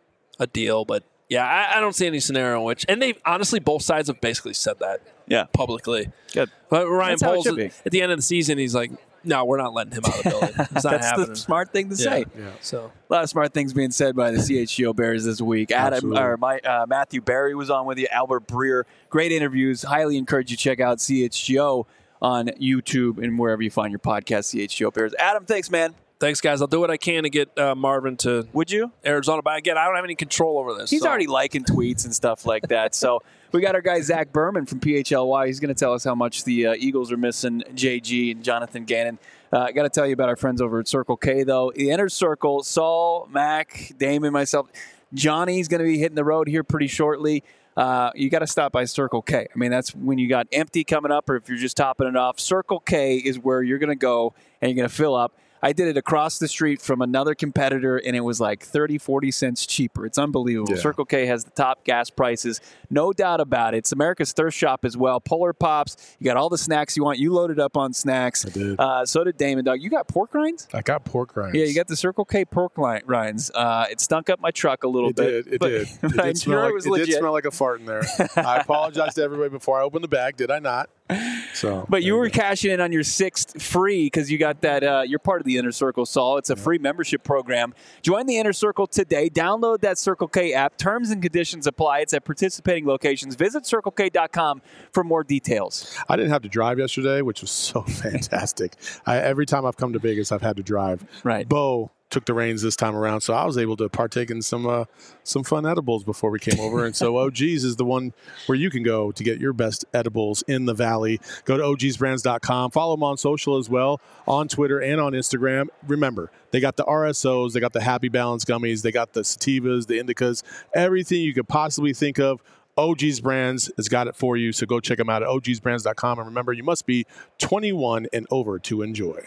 Speaker 4: a deal, but yeah, I, I don't see any scenario in which. And they honestly, both sides have basically said that.
Speaker 1: Yeah,
Speaker 4: publicly.
Speaker 1: Good.
Speaker 4: But Ryan
Speaker 1: That's how it
Speaker 4: Poles
Speaker 1: should be.
Speaker 4: at the end of the season, he's like, "No, we're not letting him out of the building. It's not
Speaker 1: That's
Speaker 4: happening."
Speaker 1: the smart thing to
Speaker 4: Yeah.
Speaker 1: say.
Speaker 2: Yeah.
Speaker 4: So
Speaker 1: A lot of smart things being said by the C H G O Bears this week. Adam
Speaker 2: Absolutely.
Speaker 1: or my, uh, Matthew Berry was on with you. Albert Breer, great interviews. Highly encourage you to check out C H G O on YouTube and wherever you find your podcast. C H G O Bears. Adam, thanks, man.
Speaker 4: thanks, guys. I'll do what I can to get uh, Marvin to
Speaker 1: Would you?
Speaker 4: Arizona, but again, I don't have any control over this.
Speaker 1: He's
Speaker 4: so.
Speaker 1: already liking tweets and stuff like that. So we got our guy Zach Berman from P H L Y. He's going to tell us how much the uh, Eagles are missing J G and Jonathan Gannon. Uh, I got to tell you about our friends over at Circle K, though. The Inner Circle, Saul, Mac, Damon, myself, Johnny's going to be hitting the road here pretty shortly. Uh, you got to stop by Circle K. I mean, that's when you got empty coming up, or if you're just topping it off. Circle K is where you're going to go and you're going to fill up. I did it across the street from another competitor, and it was like thirty, forty cents cheaper. It's unbelievable.
Speaker 2: Yeah.
Speaker 1: Circle K has the top gas prices. No doubt about it. It's America's thirst shop as well. Polar Pops. You got all the snacks you want. You loaded up on snacks.
Speaker 2: I did.
Speaker 1: Uh, so did Damon Dog. You got pork rinds?
Speaker 2: I got pork rinds.
Speaker 1: Yeah, you got the Circle K pork li- rinds. Uh, it stunk up my truck a little
Speaker 2: It
Speaker 1: bit.
Speaker 2: did. It
Speaker 1: but,
Speaker 2: did. It
Speaker 1: but
Speaker 2: did,
Speaker 1: I'm
Speaker 2: smell
Speaker 1: sure
Speaker 2: like,
Speaker 1: it was
Speaker 2: it
Speaker 1: legit.
Speaker 2: did smell like a fart in there. I apologize to everybody before I opened the bag. Did I not? So,
Speaker 1: But you
Speaker 2: there
Speaker 1: were
Speaker 2: go.
Speaker 1: cashing in on your sixth free because you got that. Uh, you're part of the Inner Circle, Saul. It's a free membership program. Join the Inner Circle today. Download that Circle K app. Terms and conditions apply. It's at participating locations. Visit circle k dot com for more details.
Speaker 2: I didn't have to drive yesterday, which was so fantastic. I, every time I've come to Vegas, I've had to drive.
Speaker 1: Right.
Speaker 2: Bo took the reins this time around, so I was able to partake in some uh, some fun edibles before we came over. And so O G's is the one where you can go to get your best edibles in the Valley. Go to O Gs brands dot com. Follow them on social as well, on Twitter and on Instagram. Remember, they got the R S Os, they got the Happy Balance gummies, they got the sativas, the indicas, everything you could possibly think of. O G's Brands has got it for you, so go check them out at O Gs brands dot com. And remember, you must be twenty-one and over to enjoy.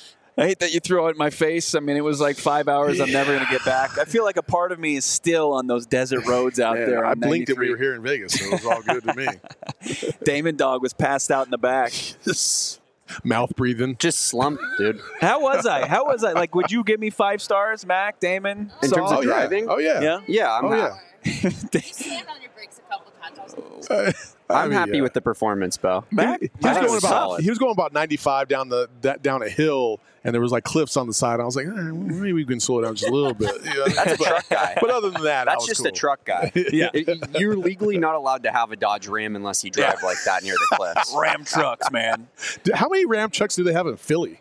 Speaker 1: I hate that you throw it in my face. I mean, it was like five hours. I'm never going to get back. I feel like a part of me is still on those desert roads out
Speaker 2: Man,
Speaker 1: there.
Speaker 2: I
Speaker 1: on
Speaker 2: blinked that we
Speaker 1: ninety-three.
Speaker 2: were here in Vegas, so it was all good to me.
Speaker 1: Damon Dog was passed out in the back.
Speaker 2: Just mouth breathing.
Speaker 3: Just slumped, dude.
Speaker 1: How was I? How was I? Like, would you give me five stars, Mac, Damon?
Speaker 3: In terms
Speaker 1: Saul?
Speaker 3: of driving?
Speaker 2: Oh, yeah.
Speaker 1: Yeah?
Speaker 3: Yeah, I'm,
Speaker 2: Oh,
Speaker 3: ha-
Speaker 2: yeah.
Speaker 5: Stand on your brakes a couple times.
Speaker 2: Uh, I
Speaker 3: I'm
Speaker 2: mean,
Speaker 3: happy
Speaker 2: yeah.
Speaker 3: with the performance, Bo.
Speaker 1: Mac?
Speaker 2: He was,
Speaker 3: That
Speaker 2: going
Speaker 3: was
Speaker 2: about,
Speaker 3: solid.
Speaker 2: he was going about ninety-five down the that, down a hill, and there was like cliffs on the side. I was like, eh, maybe we can slow down just a little bit. Yeah,
Speaker 3: That's a
Speaker 2: but,
Speaker 3: truck guy.
Speaker 2: But other than that, I
Speaker 3: That's
Speaker 2: was
Speaker 3: just
Speaker 2: cool.
Speaker 3: a truck guy.
Speaker 1: Yeah.
Speaker 3: It- You're legally not allowed to have a Dodge Ram unless you drive like that near the cliffs.
Speaker 1: Ram trucks, man.
Speaker 2: How many Ram trucks do they have in Philly?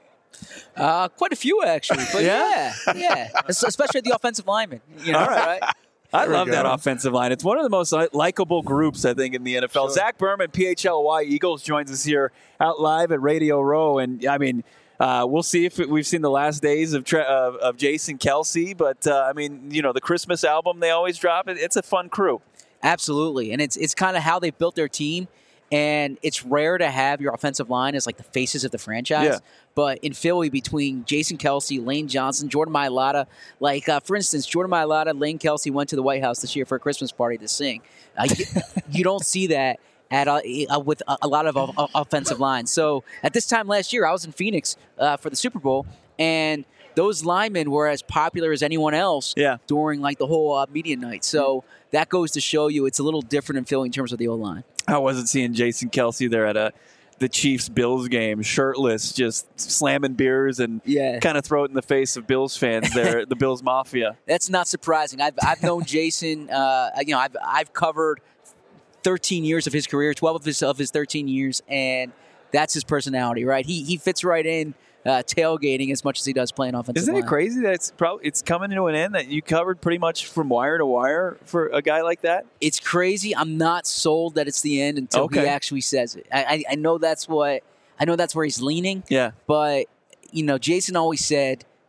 Speaker 6: Uh, quite a few actually, but
Speaker 1: Yeah?
Speaker 6: yeah, yeah, Es- especially the offensive linemen. You know,
Speaker 1: All right.
Speaker 6: right?
Speaker 1: I
Speaker 2: There we
Speaker 1: love that
Speaker 2: go.
Speaker 1: offensive line. It's one of the most li- likable groups, I think, in the N F L.
Speaker 2: Sure.
Speaker 1: Zach Berman, P H L Y Eagles, joins us here out live at Radio Row. And, I mean, uh, we'll see if it, we've seen the last days of Tre- of, of Jason Kelsey. But, uh, I mean, you know, the Christmas album they always drop, it, it's a fun crew.
Speaker 6: Absolutely, and it's it's kind of how they've built their team. And it's rare to have your offensive line as like the faces of the franchise.
Speaker 1: Yeah.
Speaker 6: But in Philly, between Jason Kelsey, Lane Johnson, Jordan Mailata, like uh, for instance, Jordan Mailata, Lane Kelsey went to the White House this year for a Christmas party to sing. Uh, you, you don't see that at uh, uh, with a, a lot of uh, offensive lines. So at this time last year, I was in Phoenix uh, for the Super Bowl, and those linemen were as popular as anyone else
Speaker 1: Yeah.
Speaker 6: during like the whole uh, media night. So that goes to show you it's a little different in Philly in terms of the O-line.
Speaker 1: How was it seeing Jason Kelsey there at a the Chiefs-Bills game, shirtless, just slamming beers and
Speaker 6: Yeah.
Speaker 1: kind of throw it in the face of Bills fans there, the Bills Mafia?
Speaker 6: That's not surprising. I've I've known Jason. Uh, you know, I've I've covered thirteen years of his career, twelve of his of his thirteen years, and that's his personality, right? He he fits right in uh, tailgating as much as he does playing offensive
Speaker 1: Isn't
Speaker 6: line.
Speaker 1: it crazy that it's probably it's coming to an end that you covered pretty much from wire to wire for a guy like that?
Speaker 6: It's crazy. I'm not sold that it's the end until
Speaker 1: Okay.
Speaker 6: he actually says it. I, I I know that's what I know that's where he's leaning.
Speaker 1: Yeah.
Speaker 6: But you know, Jason always said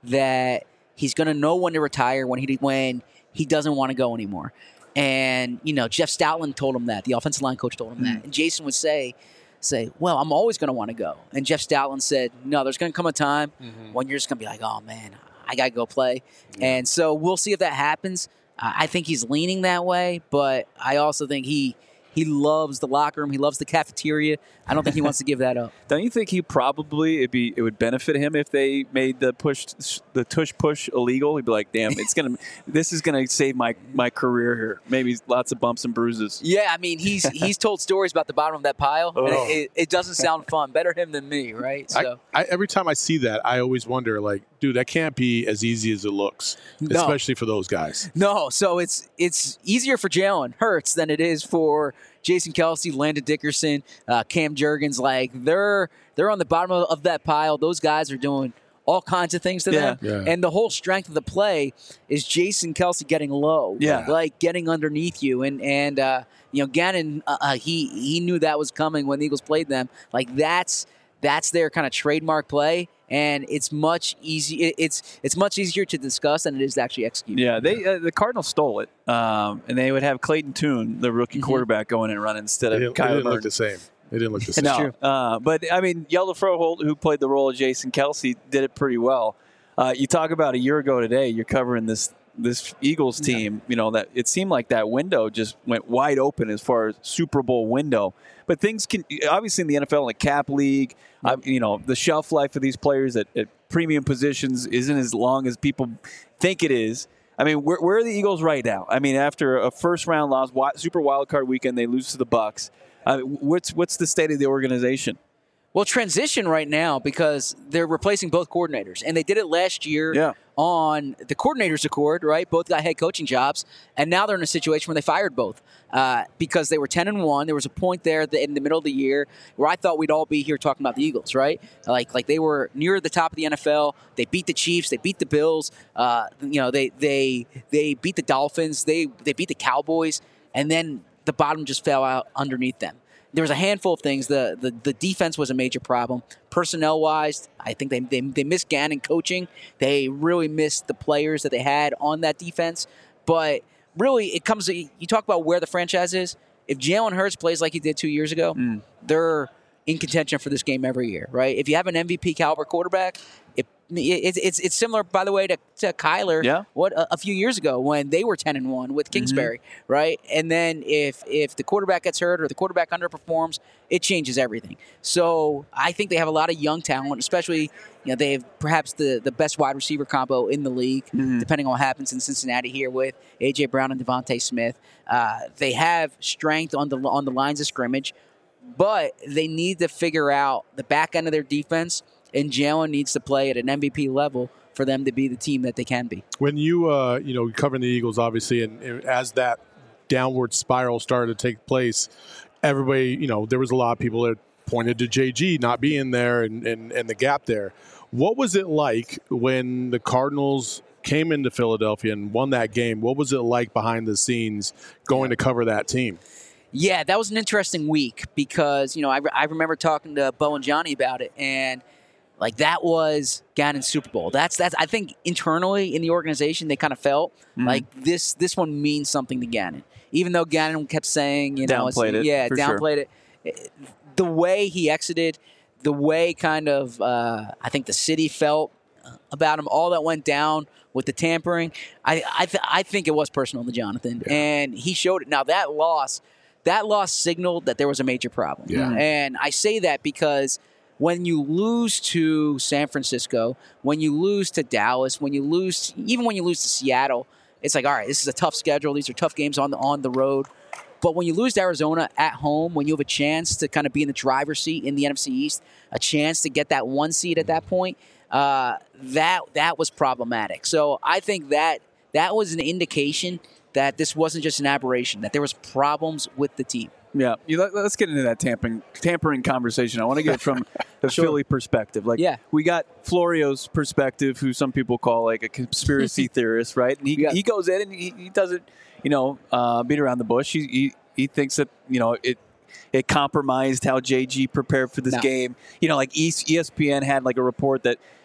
Speaker 6: that he's going to know when to retire when he when he doesn't want to go anymore. And, you know, Jeff Stoutland told him that. The offensive line coach told him mm. that. And Jason would say, say, well, I'm always going to want to go. And Jeff Stoutland said, no, there's going to come a time mm-hmm. when you're just going to be like, oh, man, I got to go play. Yeah. And so we'll see if that happens. Uh, I think he's leaning that way, but I also think he he loves the locker room. He loves the cafeteria. I don't think he wants to give that up.
Speaker 1: Don't you think he probably it'd be it would benefit him if they made the push the tush push illegal? He'd be like, "Damn, it's gonna this is gonna save my, my career here. Maybe lots of bumps and bruises."
Speaker 6: Yeah, I mean he's he's told stories about the bottom of that pile. Oh. And it, it, it doesn't sound fun. Better him than me, right? So
Speaker 2: I, I, every time I see that, I always wonder, like, dude, that can't be as easy as it looks, no. especially for those guys.
Speaker 6: No, so it's it's easier for Jalen Hurts than it is for Jason Kelce, Landon Dickerson, uh, Cam Jurgens. Like they're they're on the bottom of, of that pile. Those guys are doing all kinds of things to
Speaker 1: yeah.
Speaker 6: them.
Speaker 2: Yeah.
Speaker 6: And the whole strength of the play is Jason Kelce getting low,
Speaker 1: yeah.
Speaker 6: like getting underneath you. And and uh, you know Gannon, uh, uh, he he knew that was coming when the Eagles played them. Like that's that's their kind of trademark play. And it's much easy. It's it's much easier to discuss than it is to actually execute.
Speaker 1: Yeah, they uh, the Cardinals stole it, um, and they would have Clayton Tune, the rookie mm-hmm. quarterback, going and running instead
Speaker 2: they
Speaker 1: of
Speaker 2: Kyler. They didn't
Speaker 1: Murray.
Speaker 2: look the same. They didn't look the same.
Speaker 1: No, uh, but I mean, Yellow Froholt, who played the role of Jason Kelce, did it pretty well. Uh, you talk about a year ago today. You're covering this this Eagles team. Yeah. You know that it seemed like that window just went wide open as far as Super Bowl window. But things can obviously in the N F L, in the cap league, uh, you know, the shelf life of these players at, at premium positions isn't as long as people think it is. I mean, where, where are the Eagles right now? I mean, after a first round loss, Super Wild Card weekend, they lose to the Bucs. Uh, what's what's the state of the organization?
Speaker 6: Well, transition right now because they're replacing both coordinators. And they did it last year
Speaker 1: yeah.
Speaker 6: on the coordinators' accord, right? Both got head coaching jobs. And now they're in a situation where they fired both uh, because they were ten and one. There was a point there in the middle of the year where I thought we'd all be here talking about the Eagles, right? Like like they were near the top of the N F L. They beat the Chiefs. They beat the Bills. Uh, you know, they they they beat the Dolphins. They they beat the Cowboys. And then the bottom just fell out underneath them. There was a handful of things. The, the the defense was a major problem. Personnel-wise, I think they, they they missed Gannon coaching. They really missed the players that they had on that defense. But really, it comes to, you talk about where the franchise is. If Jalen Hurts plays like he did two years ago, mm. they're in contention for this game every year, right? If you have an M V P caliber quarterback, it, it, it's it's similar, by the way, to, to Kyler.
Speaker 1: Yeah.
Speaker 6: What a, a few years ago when they were ten and one with Kingsbury, mm-hmm. right? And then if if the quarterback gets hurt or the quarterback underperforms, it changes everything. So I think they have a lot of young talent, especially you know they have perhaps the, the best wide receiver combo in the league, mm-hmm. depending on what happens in Cincinnati here with A J Brown and Devontae Smith. Uh, they have strength on the on the lines of scrimmage. But they need to figure out the back end of their defense, and Jalen needs to play at an M V P level for them to be the team that they can be.
Speaker 2: When you, uh, you know, covering the Eagles, obviously, and, and as that downward spiral started to take place, everybody, you know, there was a lot of people that pointed to J G not being there and, and, and the gap there. What was it like when the Cardinals came into Philadelphia and won that game? What was it like behind the scenes going to cover that team?
Speaker 6: Yeah, that was an interesting week because, you know, I, re- I remember talking to Bo and Johnny about it, and, like, that was Gannon's Super Bowl. That's, that's I think, internally in the organization, they kind of felt mm-hmm. like this this one means something to Gannon. Even though Gannon kept saying, you know,
Speaker 1: downplayed it.
Speaker 6: Yeah, downplayed
Speaker 1: sure.
Speaker 6: it. The way he exited, the way kind of, uh, I think the city felt about him, all that went down with the tampering, I I, th- I think it was personal to Jonathan, yeah. and he showed it. Now, that loss... That loss signaled that there was a major problem.
Speaker 2: Yeah.
Speaker 6: And I say that because when you lose to San Francisco, when you lose to Dallas, when you lose, even when you lose to Seattle, it's like, all right, this is a tough schedule. These are tough games on the on the road. But when you lose to Arizona at home, when you have a chance to kind of be in the driver's seat in the N F C East, a chance to get that one seed at that point, uh, that that was problematic. So I think that that was an indication that this wasn't just an aberration, that there was problems with the team.
Speaker 1: Yeah, you, let, let's get into that tampering tampering conversation. I want to get it from the sure. Philly perspective. Like,
Speaker 6: yeah.
Speaker 1: we got Florio's perspective, who some people call like a conspiracy theorist, right? And he
Speaker 6: yeah.
Speaker 1: he goes in and he, he doesn't, you know, uh, beat around the bush. He, he he thinks that you know it it compromised how J G prepared for this
Speaker 6: no.
Speaker 1: game. You know, like E S P N had like a report that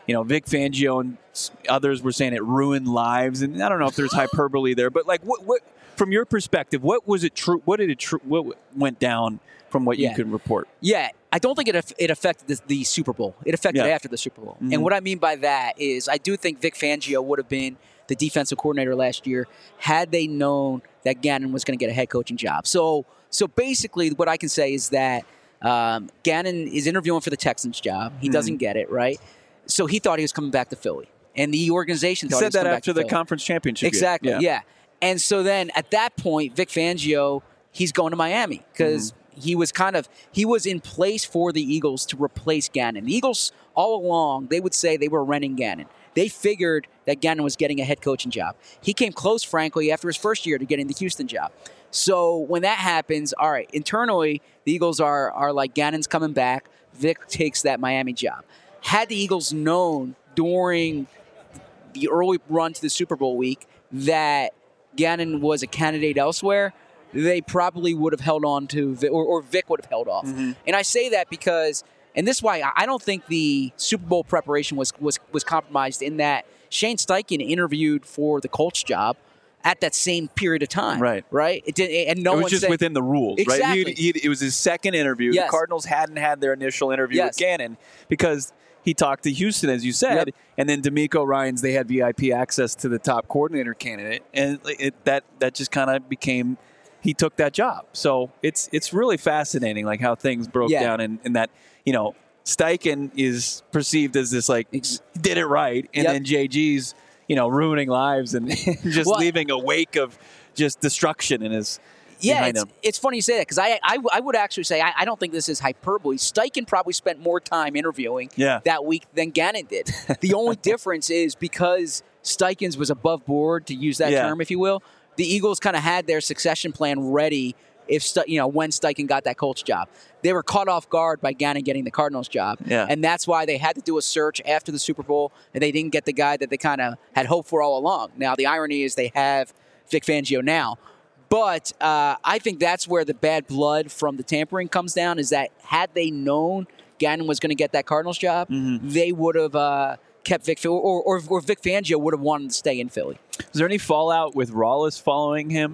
Speaker 1: you know, Vic Fangio and s- others were saying it ruined lives, and I don't know if there's hyperbole there, but like, what, what from your perspective, what was it true? What did it true? What went down from what
Speaker 6: Yeah.
Speaker 1: you can report?
Speaker 6: Yeah, I don't think it aff- it affected the, the Super Bowl. It affected
Speaker 1: Yeah.
Speaker 6: after the Super Bowl.
Speaker 1: Mhm.
Speaker 6: And what I mean by that is I do think Vic Fangio would have been the defensive coordinator last year had they known that Gannon was going to get a head coaching job. So, so basically, what I can say is that um, Gannon is interviewing for the Texans job. He
Speaker 1: Mhm.
Speaker 6: doesn't get it, right? So he thought he was coming back to Philly, and the organization
Speaker 1: You
Speaker 6: thought he
Speaker 1: said
Speaker 6: was
Speaker 1: that
Speaker 6: coming back
Speaker 1: after
Speaker 6: to
Speaker 1: the
Speaker 6: Philly.
Speaker 1: conference championship.
Speaker 6: Exactly.
Speaker 1: game.
Speaker 6: Yeah. And so then at that point, Vic Fangio, he's going to Miami because
Speaker 1: Mm-hmm.
Speaker 6: he was kind of he was in place for the Eagles to replace Gannon. The Eagles all along they would say they were renting Gannon. They figured that Gannon was getting a head coaching job. He came close, frankly, after his first year to getting the Houston job. So when that happens, all right, internally the Eagles are are like Gannon's coming back. Vic takes that Miami job. Had the Eagles known during the early run to the Super Bowl week that Gannon was a candidate elsewhere, they probably would have held on to Vic, or, or Vic would have held off.
Speaker 1: Mm-hmm.
Speaker 6: And I say that because, and this is why I- I don't think the Super Bowl preparation was was was compromised in that Shane Steichen interviewed for the Colts job at that same period of time.
Speaker 1: Right.
Speaker 6: Right. It did, and no
Speaker 1: it was
Speaker 6: one
Speaker 1: just
Speaker 6: said,
Speaker 1: within the rules, right?
Speaker 6: Exactly.
Speaker 1: He, he, it was his second interview.
Speaker 6: Yes.
Speaker 1: The Cardinals hadn't had their initial interview
Speaker 6: Yes.
Speaker 1: with Gannon because he talked to Houston, as you said,
Speaker 6: Yep.
Speaker 1: and then D'Amico Ryans, they had V I P access to the top coordinator candidate, and it, that that just kind of became he took that job. So it's it's really fascinating, like how things broke
Speaker 6: Yeah.
Speaker 1: down, and, and that you know Steichen is perceived as this like
Speaker 6: Ex-
Speaker 1: did it right, and
Speaker 6: Yep.
Speaker 1: then J G's you know ruining lives and just
Speaker 6: Well-
Speaker 1: leaving a wake of just destruction in his.
Speaker 6: Yeah,
Speaker 1: behind
Speaker 6: it's,
Speaker 1: him.
Speaker 6: it's funny you say that because I, I I would actually say I, I don't think this is hyperbole. Steichen probably spent more time interviewing
Speaker 1: Yeah.
Speaker 6: that week than Gannon did. The only difference is because Steichen's was above board, to use that
Speaker 1: Yeah.
Speaker 6: term, if you will. The Eagles kind of had their succession plan ready if Ste- you know when Steichen got that Colts job. They were caught off guard by Gannon getting the Cardinals job,
Speaker 1: Yeah.
Speaker 6: and that's why they had to do a search after the Super Bowl, and they didn't get the guy that they kind of had hoped for all along. Now the irony is they have Vic Fangio now. But uh, I think that's where the bad blood from the tampering comes down, is that had they known Gannon was going to get that Cardinals job,
Speaker 1: Mm-hmm.
Speaker 6: they would have uh, kept Vic, or, or, or Vic Fangio would have wanted to stay in Philly.
Speaker 1: Is there any fallout with Rawless following him?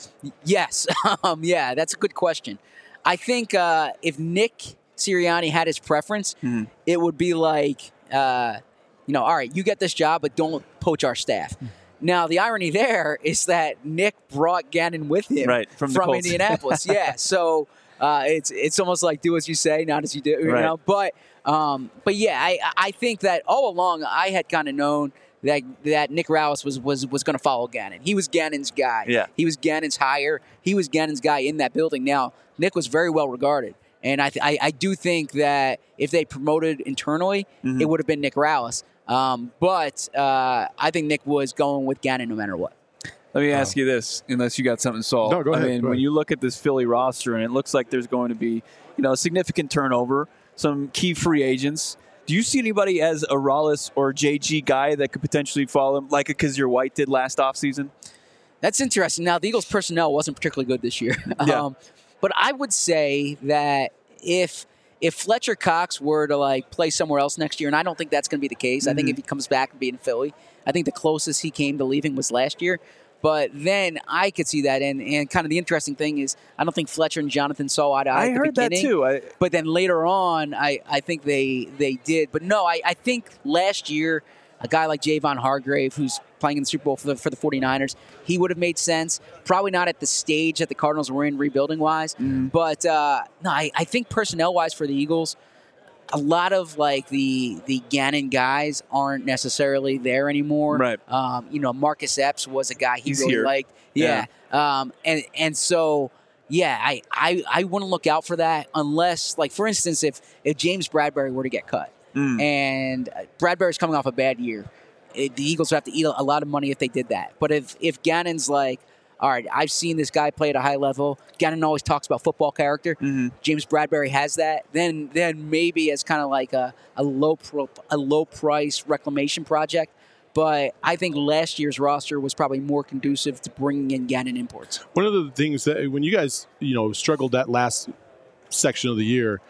Speaker 6: Yes. um, yeah, that's a good question. I think uh, if Nick Sirianni had his preference,
Speaker 1: Mhm.
Speaker 6: it would be like, uh, you know, all right, you get this job, but don't poach our staff. Now, the irony there is that Nick brought Gannon with him
Speaker 1: Right, from the Colts.
Speaker 6: Indianapolis. Yeah, so uh, it's it's almost like do as you say, not as you do. You
Speaker 1: Right.
Speaker 6: know? But um, but yeah, I I think that all along I had kind of known that that Nick Rallis was was was going to follow Gannon. He was Gannon's guy.
Speaker 1: Yeah.
Speaker 6: He was Gannon's hire. He was Gannon's guy in that building. Now, Nick was very well regarded. And I, th- I, I do think that if they promoted internally,
Speaker 1: Mhm.
Speaker 6: it would have been Nick Rallis. Um, but uh, I think Nick was going with Gannon no matter what.
Speaker 1: Let me ask you this, unless you got something to solve.
Speaker 2: No, go ahead,
Speaker 1: I mean,
Speaker 2: go
Speaker 1: when
Speaker 2: ahead.
Speaker 1: you look at this Philly roster, and it looks like there's going to be, you know, a significant turnover, some key free agents. Do you see anybody as a Rawless or J G guy that could potentially follow him, like a Kazir White did last offseason?
Speaker 6: That's interesting. Now, the Eagles' personnel wasn't particularly good this year.
Speaker 1: Yeah.
Speaker 6: um, but I would say that if if Fletcher Cox were to like play somewhere else next year, and I don't think that's going to be the case. I think
Speaker 1: Mhm.
Speaker 6: if he comes back and be in Philly, I think the closest he came to leaving was last year. But then I could see that, and, and kind of the interesting thing is, I don't think Fletcher and Jonathan saw eye to eye
Speaker 1: I
Speaker 6: at the
Speaker 1: heard that
Speaker 6: beginning.
Speaker 1: too. I,
Speaker 6: But then later on, I, I think they they did. But no, I, I think last year, a guy like Javon Hargrave, who's playing in the Super Bowl for the, for the 49ers, he would have made sense. Probably not at the stage that the Cardinals were in rebuilding-wise.
Speaker 1: Mm-hmm.
Speaker 6: But uh, no, I, I think personnel-wise for the Eagles, a lot of like the the Gannon guys aren't necessarily there anymore.
Speaker 1: Right.
Speaker 6: Um, you know, Marcus Epps was a guy he
Speaker 1: He's
Speaker 6: really
Speaker 1: here.
Speaker 6: liked. Yeah. Um, and and so yeah, I, I, I wouldn't look out for that unless, like, for instance, if if James Bradbury were to get cut,
Speaker 1: Mm.
Speaker 6: and Bradbury's coming off a bad year, it, the Eagles would have to eat a lot of money if they did that. But if if Gannon's like, all right, I've seen this guy play at a high level. Gannon always talks about football character.
Speaker 1: Mhm.
Speaker 6: James Bradbury has that. Then then maybe as kind of like a, a low pro, a low price reclamation project. But I think last year's roster was probably more conducive to bringing in Gannon imports.
Speaker 2: One of the things that when you guys, you know, struggled that last section of the year,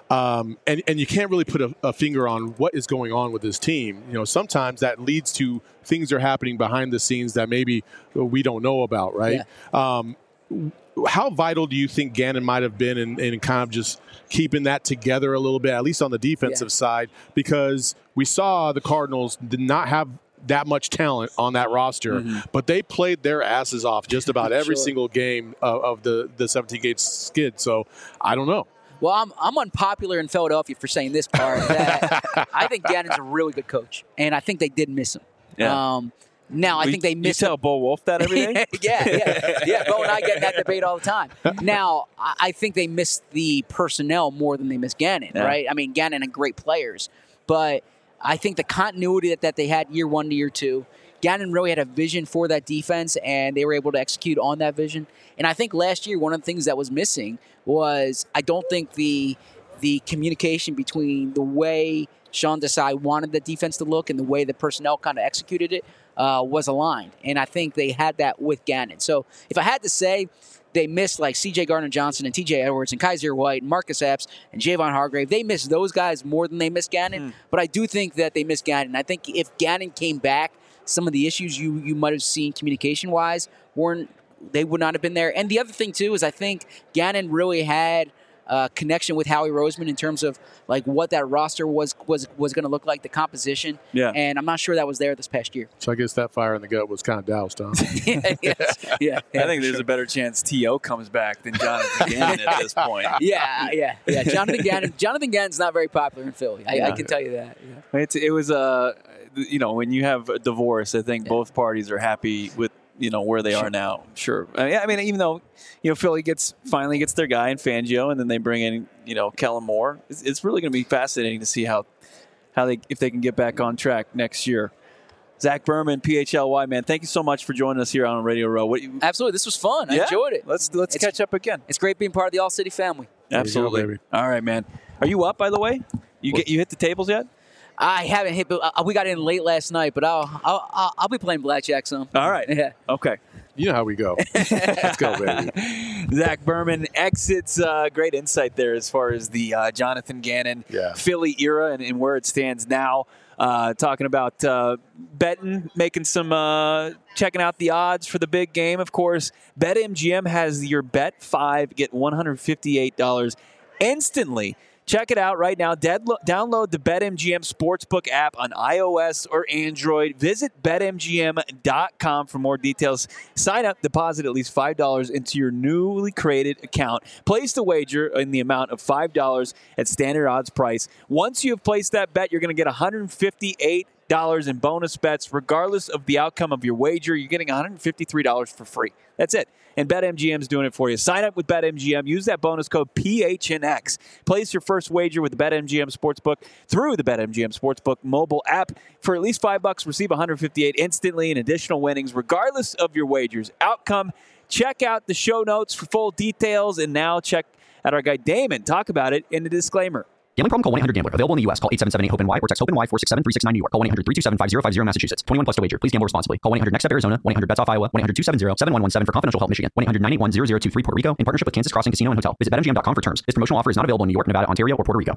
Speaker 2: Um, and, and you can't really put a, a finger on what is going on with this team. You know, sometimes that leads to things are happening behind the scenes that maybe we don't know about, right? Yeah. Um, how vital do you think Gannon might have been in, in kind of just keeping that together a little bit, at least on the defensive yeah. side? Because we saw the Cardinals did not have that much talent on that roster, mm-hmm. but they played their asses off just about every sure. single game of, of the, the seventeen-game skid. So I don't know.
Speaker 6: Well, I'm, I'm unpopular in Philadelphia for saying this part. That I think Gannon's a really good coach, and I think they did miss him. Yeah. Um, now, I
Speaker 1: we,
Speaker 6: think they missed
Speaker 1: You tell
Speaker 6: him.
Speaker 1: Bo Wolf that every day?
Speaker 6: yeah, yeah. Yeah, Bo and I get in that debate all the time. Now, I, I think they missed the personnel more than they missed Gannon, yeah. right? I mean, Gannon had great players, but I think the continuity that, that they had year one to year two, Gannon really had a vision for that defense, and they were able to execute on that vision. And I think last year, one of the things that was missing was I don't think the the communication between the way Sean Desai wanted the defense to look and the way the personnel kind of executed it uh, was aligned. And I think they had that with Gannon. So if I had to say, they missed like C J Gardner-Johnson and T J Edwards and Kaiser White and Marcus Epps and Javon Hargrave. They missed those guys more than they missed Gannon. Mm. But I do think that they missed Gannon. I think if Gannon came back, some of the issues you, you might have seen communication-wise weren't they would not have been there. And the other thing, too, is I think Gannon really had a connection with Howie Roseman in terms of like what that roster was was was going to look like, the composition. Yeah. And I'm not sure that was there this past year.
Speaker 2: So I guess that fire in the gut was kind of doused, huh?
Speaker 6: yeah, yes. yeah, yeah.
Speaker 1: I think there's sure. a better chance T O comes back than Jonathan Gannon at this point.
Speaker 6: Yeah, yeah, yeah. Jonathan Gannon. Jonathan Gannon's not very popular in Philly. I, yeah. I can tell you that. Yeah.
Speaker 1: It's, it was a, uh, you know, when you have a divorce, I think yeah. both parties are happy with, you know, where they sure. are now. Sure. I mean, I mean, even though, you know, Philly gets finally gets their guy in Fangio, and then they bring in, you know, Kellen Moore. It's, it's really going to be fascinating to see how, how they if they can get back on track next year. Zach Berman, P H L Y, man, thank you so much for joining us here on Radio Row. What,
Speaker 6: Absolutely, this was fun.
Speaker 1: Yeah?
Speaker 6: I enjoyed it.
Speaker 1: Let's let's it's, catch up again.
Speaker 6: It's great being part of the All City family.
Speaker 1: Absolutely.
Speaker 2: Go, baby.
Speaker 1: All right, man. Are you up, by the way? You get you hit the tables yet?
Speaker 6: I haven't hit, but uh, we got in late last night. But I'll I'll I'll, I'll be playing blackjack some.
Speaker 1: All right.
Speaker 6: Yeah.
Speaker 1: Okay.
Speaker 2: You know how we go. Let's go, baby.
Speaker 1: Zach Berman exits. Uh, great insight there as far as the uh, Jonathan Gannon
Speaker 2: yeah.
Speaker 1: Philly era and, and where it stands now. Uh, talking about uh, betting, making some, uh, checking out the odds for the big game. Of course, BetMGM has your bet five, get one hundred fifty-eight dollars instantly. Check it out right now. Deadlo- download the BetMGM Sportsbook app on iOS or Android. Visit Bet M G M dot com for more details. Sign up, deposit at least five dollars into your newly created account. Place the wager in the amount of five dollars at standard odds price. Once you have placed that bet, you're going to get one hundred fifty-eight dollars in bonus bets. Regardless of the outcome of your wager, you're getting one hundred fifty-three dollars for free. That's it. And BetMGM is doing it for you. Sign up with BetMGM. Use that bonus code P H N X. Place your first wager with the BetMGM Sportsbook through the BetMGM Sportsbook mobile app. For at least five bucks, receive one hundred fifty-eight instantly in additional winnings, regardless of your wager's outcome. Check out the show notes for full details. And now check out our guy Damon talk about it in the disclaimer.
Speaker 7: Gambling problem? Call one eight hundred gambler. Available in the U S. Call eight seven seven eight hope N Y or text HOPE-NY four six seven three six nine New York. Call one eight hundred three two seven five zero five zero Massachusetts. twenty-one plus to wager. Please gamble responsibly. Call one eight hundred next step Arizona. one eight hundred bets off Iowa. one eight hundred two seven zero seven one one seven for confidential help Michigan. one eight hundred nine eight one zero zero two three Puerto Rico in partnership with Kansas Crossing Casino and Hotel. Visit Bet M G M dot com for terms. This promotional offer is not available in New York, Nevada, Ontario, or Puerto Rico.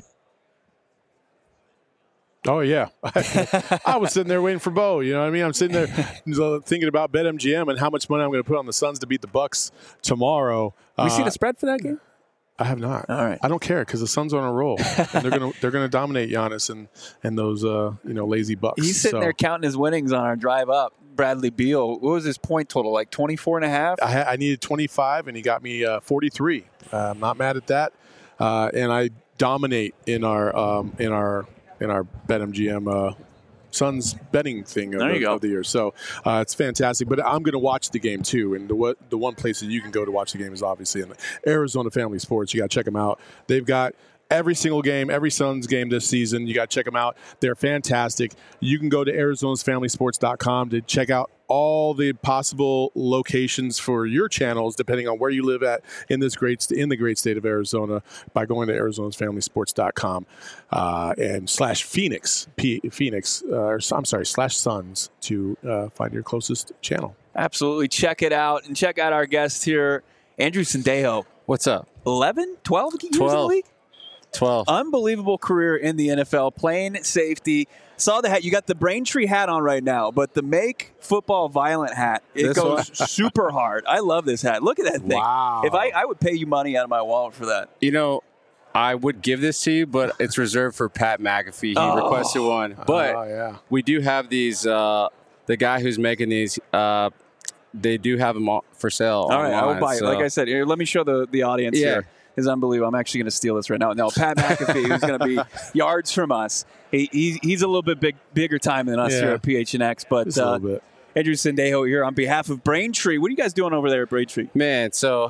Speaker 2: Oh, yeah. I was sitting there waiting for Bo. You know what I mean? I'm sitting there thinking about BetMGM and how much money I'm going to put on the Suns to beat the Bucks tomorrow.
Speaker 1: We
Speaker 2: uh,
Speaker 1: see the spread for that game?
Speaker 2: I have not.
Speaker 1: All right.
Speaker 2: I don't care because the Suns are on a roll, and they're gonna they're gonna dominate Giannis and and those uh you know lazy Bucks.
Speaker 1: He's sitting
Speaker 2: so.
Speaker 1: there counting his winnings on our drive up. Bradley Beal, what was his point total? Like twenty-four and a half?
Speaker 2: I, ha- I needed twenty-five, and he got me uh, forty-three. Uh, I'm not mad at that, uh, and I dominate in our um, in our in our BetMGM uh, Suns betting thing of,
Speaker 1: there you
Speaker 2: of,
Speaker 1: go.
Speaker 2: of the year. So uh, it's fantastic. But I'm going to watch the game too. And the what the one place that you can go to watch the game is obviously in Arizona Family Sports. You got to check them out. They've got every single game, every Suns game this season. You got to check them out. They're fantastic. You can go to Arizona's Family Sports dot com to check out all the possible locations for your channels, depending on where you live at in this great in the great state of Arizona, by going to Arizona's Family Sports dot com uh, and slash Phoenix P, Phoenix. Uh, or, I'm sorry, slash Suns to uh, find your closest channel.
Speaker 1: Absolutely, check it out and check out our guest here, Andrew Sendejo.
Speaker 8: What's up?
Speaker 1: eleven, twelve years in the
Speaker 8: twelve.
Speaker 1: league?
Speaker 8: twelve.
Speaker 1: Unbelievable career in the N F L, playing safety. Saw the hat. You got the Braintree hat on right now, but the Make Football Violent hat, it
Speaker 8: This
Speaker 1: goes
Speaker 8: one?
Speaker 1: super hard. I love this hat. Look at that thing.
Speaker 2: Wow.
Speaker 1: If I, I would pay you money out of my wallet for that.
Speaker 8: You know, I would give this to you, but it's reserved for Pat McAfee. He
Speaker 1: Oh.
Speaker 8: requested one. But
Speaker 2: Oh, yeah.
Speaker 8: we do have these. Uh, the guy who's making these, uh, they do have them all for sale.
Speaker 1: All right, I will
Speaker 8: online,
Speaker 1: buy it.
Speaker 8: so-
Speaker 1: Like I said, here, let me show the, the audience
Speaker 8: Yeah.
Speaker 1: here. It's unbelievable. I'm actually going to steal this right now. No, Pat McAfee, who's going to be yards from us. He, he, he's a little bit big, bigger time than us
Speaker 2: Yeah.
Speaker 1: here at P H N X. But
Speaker 2: Just a
Speaker 1: uh,
Speaker 2: little bit.
Speaker 1: Andrew Sendejo here on behalf of Braintree. What are you guys doing over there at Braintree?
Speaker 8: Man, so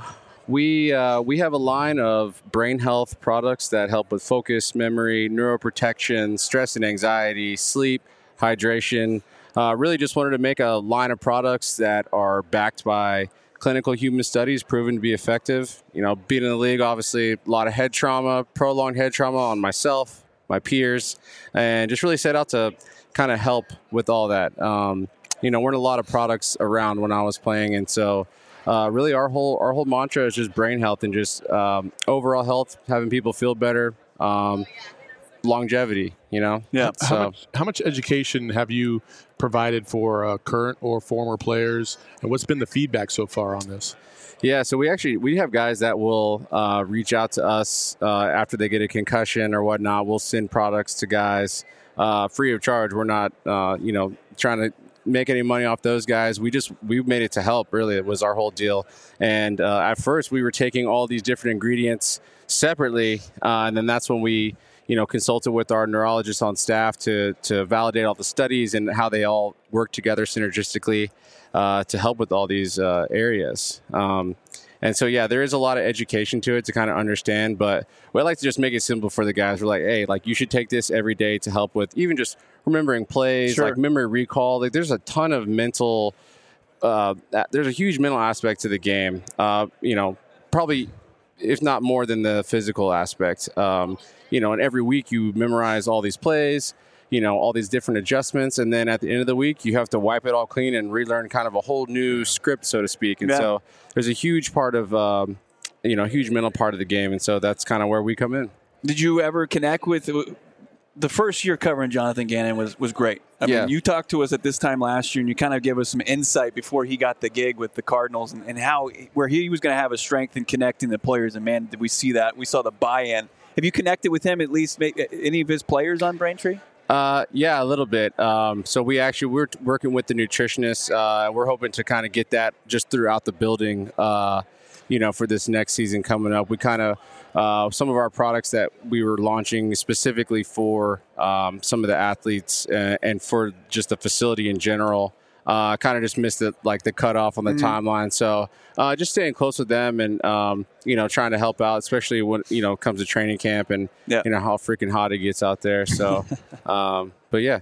Speaker 8: we uh, we have a line of brain health products that help with focus, memory, neuroprotection, stress and anxiety, sleep, hydration. Uh, really just wanted to make a line of products that are backed by clinical human studies proven to be effective. You know, being in the league, obviously, a lot of head trauma, prolonged head trauma on myself, my peers, and just really set out to kind of help with all that. Um, you know, weren't a lot of products around when I was playing, and so uh, really our whole our whole mantra is just brain health and just um, overall health, having people feel better, um, longevity. You know,
Speaker 1: Yeah.
Speaker 2: How,
Speaker 8: So
Speaker 2: much, how much education have you provided for uh, current or former players, and what's been the feedback so far on this?
Speaker 8: yeah, so we actually we have guys that will uh, reach out to us uh, after they get a concussion or whatnot. We'll send products to guys uh, free of charge. We're not uh, you know trying to make any money off those guys. We just we made it to help. Really, it was our whole deal. And uh, at first, we were taking all these different ingredients separately, uh, and then that's when we you know consulted with our neurologists on staff to to validate all the studies and how they all work together synergistically uh, to help with all these uh, areas. Um, and so, yeah, there is a lot of education to it to kind of understand, but we like to just make it simple for the guys. We're like, hey, like you should take this every day to help with even just remembering plays,
Speaker 1: Sure.
Speaker 8: like memory recall. Like there's a ton of mental, uh, there's a huge mental aspect to the game. Uh, you know, probably if not more than the physical aspect. Um, you know, and every week you memorize all these plays, you know, all these different adjustments. And then at the end of the week, you have to wipe it all clean and relearn kind of a whole new script, so to speak. And
Speaker 1: Yeah.
Speaker 8: so there's a huge part of, um, you know, a huge mental part of the game. And so that's kind of where we come in.
Speaker 1: Did you ever connect with the first year covering Jonathan Gannon was, was great. I
Speaker 8: Yeah.
Speaker 1: mean, you talked to us at this time last year, and you kind of gave us some insight before he got the gig with the Cardinals, and, and how where he was going to have a strength in connecting the players. And man, did we see that? We saw the buy-in. Have you connected with him at least? Maybe, any of his players on Braintree?
Speaker 8: Uh, yeah, a little bit. Um, so we actually we're t- working with the nutritionist. Uh, we're hoping to kind of get that just throughout the building. Uh, you know, for this next season coming up, we kind of uh, some of our products that we were launching specifically for um, some of the athletes uh, and for just the facility in general. Uh, kind of just missed it, like the cutoff on the
Speaker 1: Mm-hmm.
Speaker 8: timeline. So uh, just staying close with them and um, you know trying to help out, especially when you know it comes to training camp and
Speaker 1: Yeah.
Speaker 8: you know how freaking hot it gets out there. So, um, but yeah.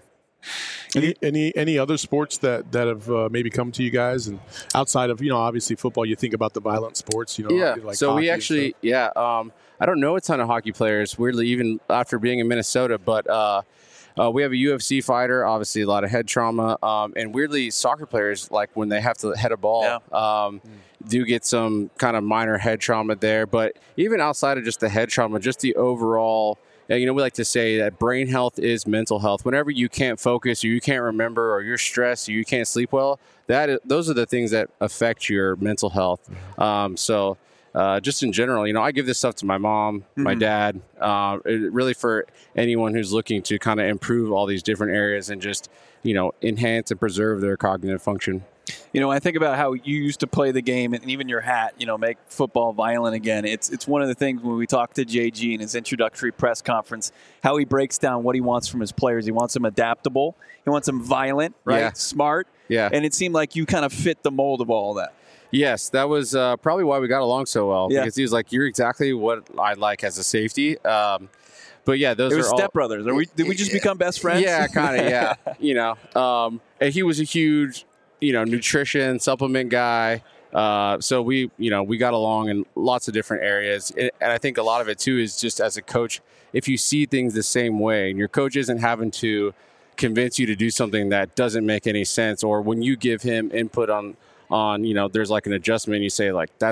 Speaker 2: Any any any other sports that that have uh, maybe come to you guys, and outside of you know obviously football, you think about the violent sports, you know?
Speaker 8: Yeah.
Speaker 2: like
Speaker 8: so
Speaker 2: hockey
Speaker 8: we
Speaker 2: and
Speaker 8: actually,
Speaker 2: stuff.
Speaker 8: yeah. Um, I don't know a ton of hockey players, weirdly, even after being in Minnesota, but uh, uh, we have a U F C fighter, obviously a lot of head trauma, um, and weirdly, soccer players, like when they have to head a ball, um, do get some kind of minor head trauma there. But even outside of just the head trauma, just the overall. uh, You know, we like to say that brain health is mental health. Whenever you can't focus or you can't remember or you're stressed or you can't sleep well, that is, those are the things that affect your mental health. Um, so uh, just in general, you know, I give this stuff to my mom, my dad, uh, it, really for anyone who's looking to kind of improve all these different areas and just, you know, enhance and preserve their cognitive function.
Speaker 1: You know, I think about how you used to play the game, and even your hat, you know, make football violent again. It's it's one of the things when we talk to J G in his introductory press conference, how he breaks down what he wants from his players. He wants them adaptable. He wants them violent, right?
Speaker 8: Yeah.
Speaker 1: Smart.
Speaker 8: Yeah.
Speaker 1: And it seemed like you kind of fit the mold of all that.
Speaker 8: Yes, that was uh, probably why we got along so well.
Speaker 1: Yeah.
Speaker 8: Because he was like, "You're exactly what I like as a safety." Um, but yeah, those
Speaker 1: It
Speaker 8: are
Speaker 1: was
Speaker 8: all
Speaker 1: stepbrothers. Are we? Did we just become best friends?
Speaker 8: Yeah, kind of. Yeah, you know, um, and he was a huge, you know, nutrition supplement guy. Uh, so we, you know, we got along in lots of different areas, and I think a lot of it too is just as a coach, if you see things the same way, and your coach isn't having to convince you to do something that doesn't make any sense, or when you give him input on, on, you know, there's like an adjustment, you say like that's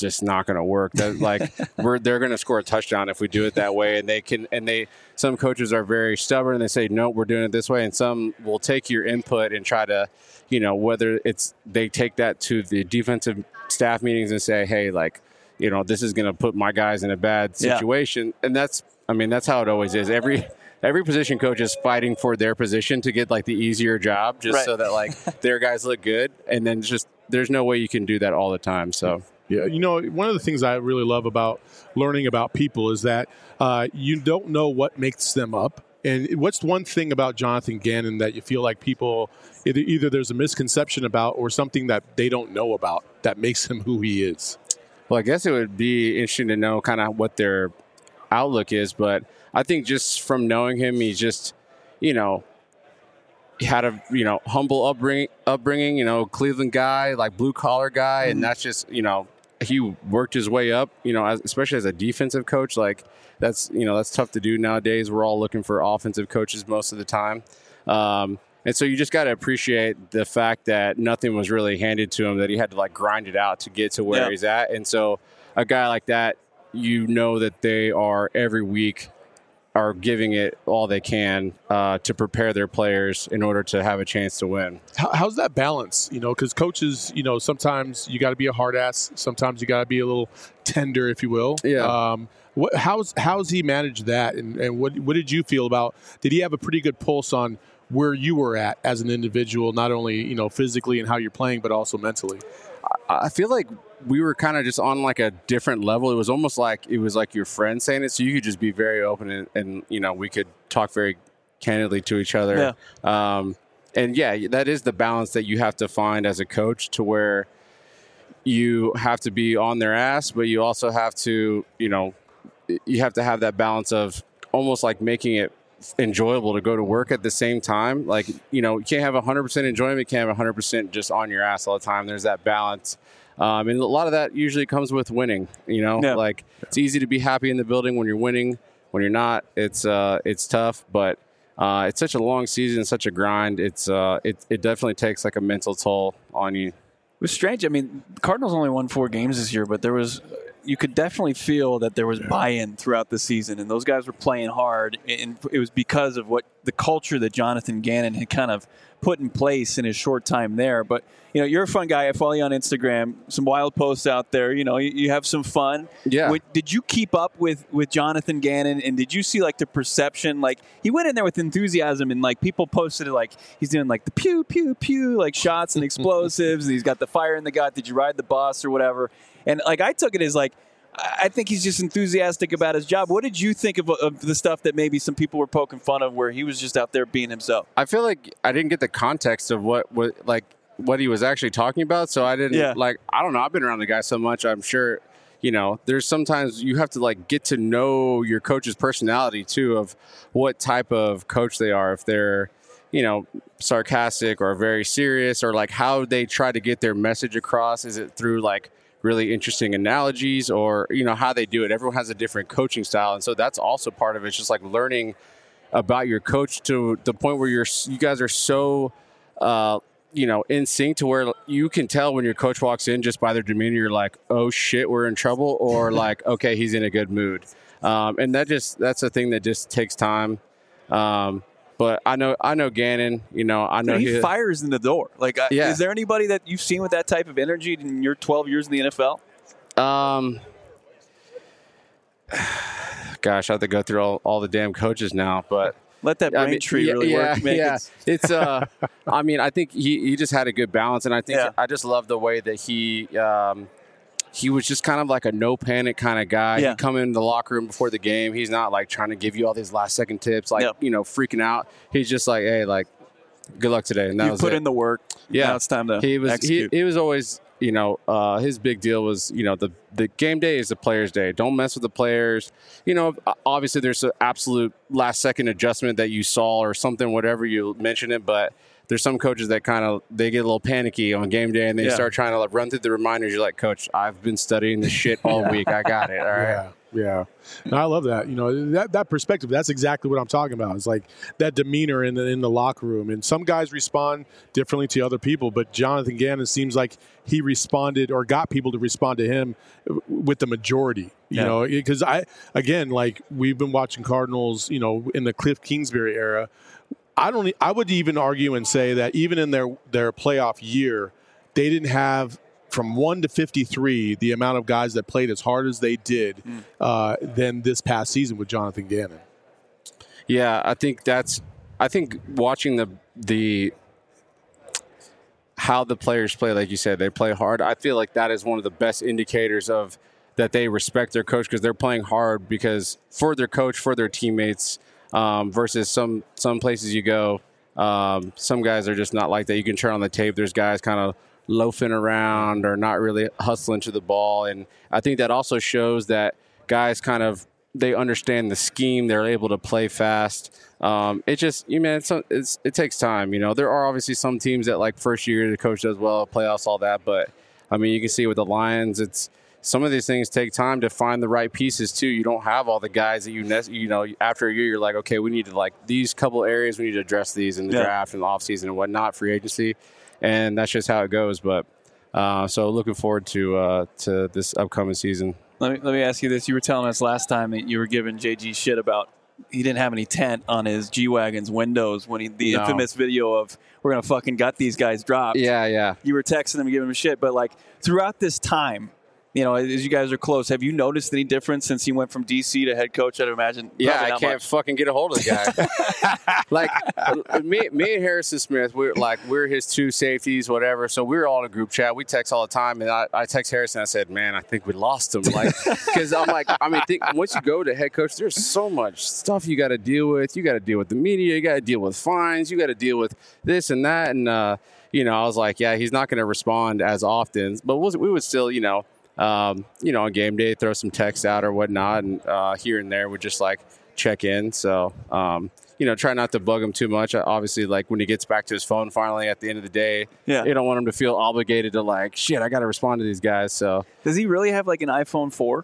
Speaker 8: just not going to work. That, like we're they're going to score a touchdown if we do it that way. And they can and they some coaches are very stubborn and they say no, we're doing it this way. And some will take your input and try to, you know, whether it's they take that to the defensive staff meetings and say, hey, like, you know, this is going to put my guys in a bad situation. Yeah. And that's, I mean, that's how it always is. Every every position coach is fighting for their position to get like the easier job, just right. so that like their guys look good. And then just there's no way you can do that all the time. So.
Speaker 2: Yeah, you know, one of the things I really love about learning about people is that uh, you don't know what makes them up. And what's one thing about Jonathan Gannon that you feel like people either, either there's a misconception about or something that they don't know about that makes him who he is?
Speaker 8: Well, I guess it would be interesting to know kind of what their outlook is. But I think just from knowing him, he's just, you know, he had a, you know, humble upbringing, upbringing, you know, Cleveland guy, like blue collar guy. Mm-hmm. And that's just, you know, he worked his way up, you know, as, especially as a defensive coach. Like that's, you know, that's tough to do nowadays. We're all looking for offensive coaches most of the time. Um, and so you just got to appreciate the fact that nothing was really handed to him, that he had to like grind it out to get to where yeah. he's at. And so a guy like that, you know, that they are every week are giving it all they can uh, to prepare their players in order to have a chance to win.
Speaker 2: How, how's that balance? You know, because coaches, you know, sometimes you got to be a hard ass. Sometimes you got to be a little tender, if you will.
Speaker 8: Yeah.
Speaker 2: Um, what, how's how's he managed that? And, and what what did you feel about? Did he have a pretty good pulse on where you were at as an individual, not only, you know, physically and how you're playing, but also mentally?
Speaker 8: I feel like we were kind of just on like a different level. It was almost like it was like your friend saying it, so you could just be very open and, and you know, we could talk very candidly to each other. Yeah. Um, and yeah, that is the balance that you have to find as a coach, to where you have to be on their ass, but you also have to, you know, you have to have that balance of almost like making it enjoyable to go to work at the same time. Like, you know, you can't have one hundred percent enjoyment, you can't have one hundred percent just on your ass all the time. There's that balance. Um, and a lot of that usually comes with winning, you know, yeah. like it's easy to be happy in the building when you're winning. When you're not, it's uh, it's tough, but uh, it's such a long season, such a grind. It's uh, it, it definitely takes like a mental toll on you.
Speaker 1: It was strange. I mean, the Cardinals only won four games this year, but there was, you could definitely feel that there was buy-in throughout the season, and those guys were playing hard, and it was because of what the culture that Jonathan Gannon had kind of put in place in his short time there. But, you know, you're a fun guy. I follow you on Instagram. Some wild posts out there. You know, you, you have some fun.
Speaker 8: Yeah.
Speaker 1: What, did you keep up with, with Jonathan Gannon, and did you see, like, the perception? Like, he went in there with enthusiasm, and, like, people posted it like he's doing, like, the pew, pew, pew, like, shots and explosives, and he's got the fire in the gut. Did you ride the bus or whatever? And, like, I took it as, like, I think he's just enthusiastic about his job. What did you think of, of the stuff that maybe some people were poking fun of, where he was just out there being himself?
Speaker 8: I feel like I didn't get the context of what, what like what he was actually talking about, so I didn't yeah. like. I don't know. I've been around the guy so much. I'm sure, you know, there's sometimes you have to like get to know your coach's personality too, of what type of coach they are. If they're, you know, sarcastic or very serious, or like how they try to get their message across. Is it through like really interesting analogies, or, you know, how they do it? Everyone has a different coaching style. And so that's also part of it. It's just like learning about your coach to the point where you're, you guys are so, uh, you know, in sync to where you can tell when your coach walks in just by their demeanor, you're like, oh shit, we're in trouble. Or like, okay, he's in a good mood. Um, and that just, that's a thing that just takes time. Um, But I know, I know Gannon. You know, I know
Speaker 1: he, he fires in the door. Like, uh,
Speaker 8: yeah.
Speaker 1: is there anybody that you've seen with that type of energy in your twelve years in the N F L?
Speaker 8: Um, gosh, I have to go through all, all the damn coaches now. But
Speaker 1: let that brain
Speaker 8: I mean,
Speaker 1: tree
Speaker 8: yeah,
Speaker 1: really
Speaker 8: yeah,
Speaker 1: work. Man.
Speaker 8: Yeah, it's. it's uh, I mean, I think he, he just had a good balance, and I think
Speaker 1: yeah.
Speaker 8: I just love the way that he. Um, He was just kind of like a no panic kind of guy.
Speaker 1: Yeah.
Speaker 8: He'd come in the locker room before the game. He's not like trying to give you all these last second tips, like,
Speaker 1: yep.
Speaker 8: you know, freaking out. He's just like, hey, like, good luck today. And that
Speaker 1: you
Speaker 8: was
Speaker 1: put
Speaker 8: it.
Speaker 1: in the work.
Speaker 8: Yeah.
Speaker 1: Now it's time to
Speaker 8: he was,
Speaker 1: execute.
Speaker 8: He, he was always, you know, uh, his big deal was, you know, the, the game day is the players' day. Don't mess with the players. You know, obviously there's an absolute last second adjustment that you saw or something, whatever you mention it, but at there's some coaches that kind of they get a little panicky on game day and they
Speaker 1: Yeah.
Speaker 8: start trying to like run through the reminders. You're like, Coach, I've been studying this shit all week. I got it. All right.
Speaker 2: Yeah, yeah. No, I love that. You know, that that perspective. That's exactly what I'm talking about. It's like that demeanor in the in the locker room. And some guys respond differently to other people, but Jonathan Gannon seems like he responded or got people to respond to him with the majority. You
Speaker 1: Yeah.
Speaker 2: know, because I again, like we've been watching Cardinals. You know, in the Cliff Kingsbury era. I don't. e- I would even argue and say that even in their their playoff year, they didn't have from one to fifty-three the amount of guys that played as hard as they did
Speaker 1: Mm.
Speaker 2: uh, than this past season with Jonathan Gannon.
Speaker 8: Yeah, I think that's. I think watching the the how the players play, like you said, they play hard. I feel like that is one of the best indicators of that they respect their coach because they're playing hard because for their coach, for their teammates. Um, versus some some places you go, um, some guys are just not like that. You can turn on the tape. There's guys kind of loafing around or not really hustling to the ball, and I think that also shows that guys kind of they understand the scheme. They're able to play fast. Um, it just you man, it's, it's it takes time. You know, there are obviously some teams that like first year the coach does well, playoffs, all that. But I mean, you can see with the Lions, it's. Some of these things take time to find the right pieces too. You don't have all the guys that you ne- you know after a year. You're like, okay, we need to like these couple areas. We need to address these in the
Speaker 1: Yeah.
Speaker 8: draft and the offseason and whatnot, free agency, and that's just how it goes. But uh, so looking forward to uh, to this upcoming season.
Speaker 1: Let me let me ask you this: you were telling us last time that you were giving J G shit about he didn't have any tent on his G wagon's windows when he the
Speaker 8: No.
Speaker 1: infamous video of we're gonna fucking gut these guys dropped.
Speaker 8: Yeah, yeah.
Speaker 1: You were texting him, giving him shit, but like throughout this time. You know, as you guys are close, have you noticed any difference since he went from D C to head coach? I'd imagine.
Speaker 8: Yeah,
Speaker 1: probably
Speaker 8: I
Speaker 1: not
Speaker 8: can't
Speaker 1: much.
Speaker 8: fucking get a hold of the guy. like me, me and Harrison Smith, we're like we're his two safeties, whatever. So we were all in a group chat. We text all the time, and I, I text Harrison. I said, "Man, I think we lost him." Like, because I'm like, I mean, think, once you go to head coach, there's so much stuff you got to deal with. You got to deal with the media. You got to deal with fines. You got to deal with this and that. And uh, you know, I was like, yeah, he's not going to respond as often, but we'll, we would still, you know. Um, you know, on game day, throw some text out or whatnot, and uh, here and there would just like check in. So, um, you know, try not to bug him too much. Obviously, like when he gets back to his phone finally at the end of the day,
Speaker 1: Yeah.
Speaker 8: you don't want him to feel obligated to like, shit, I got to respond to these guys. So,
Speaker 1: Does he really have like an iPhone four?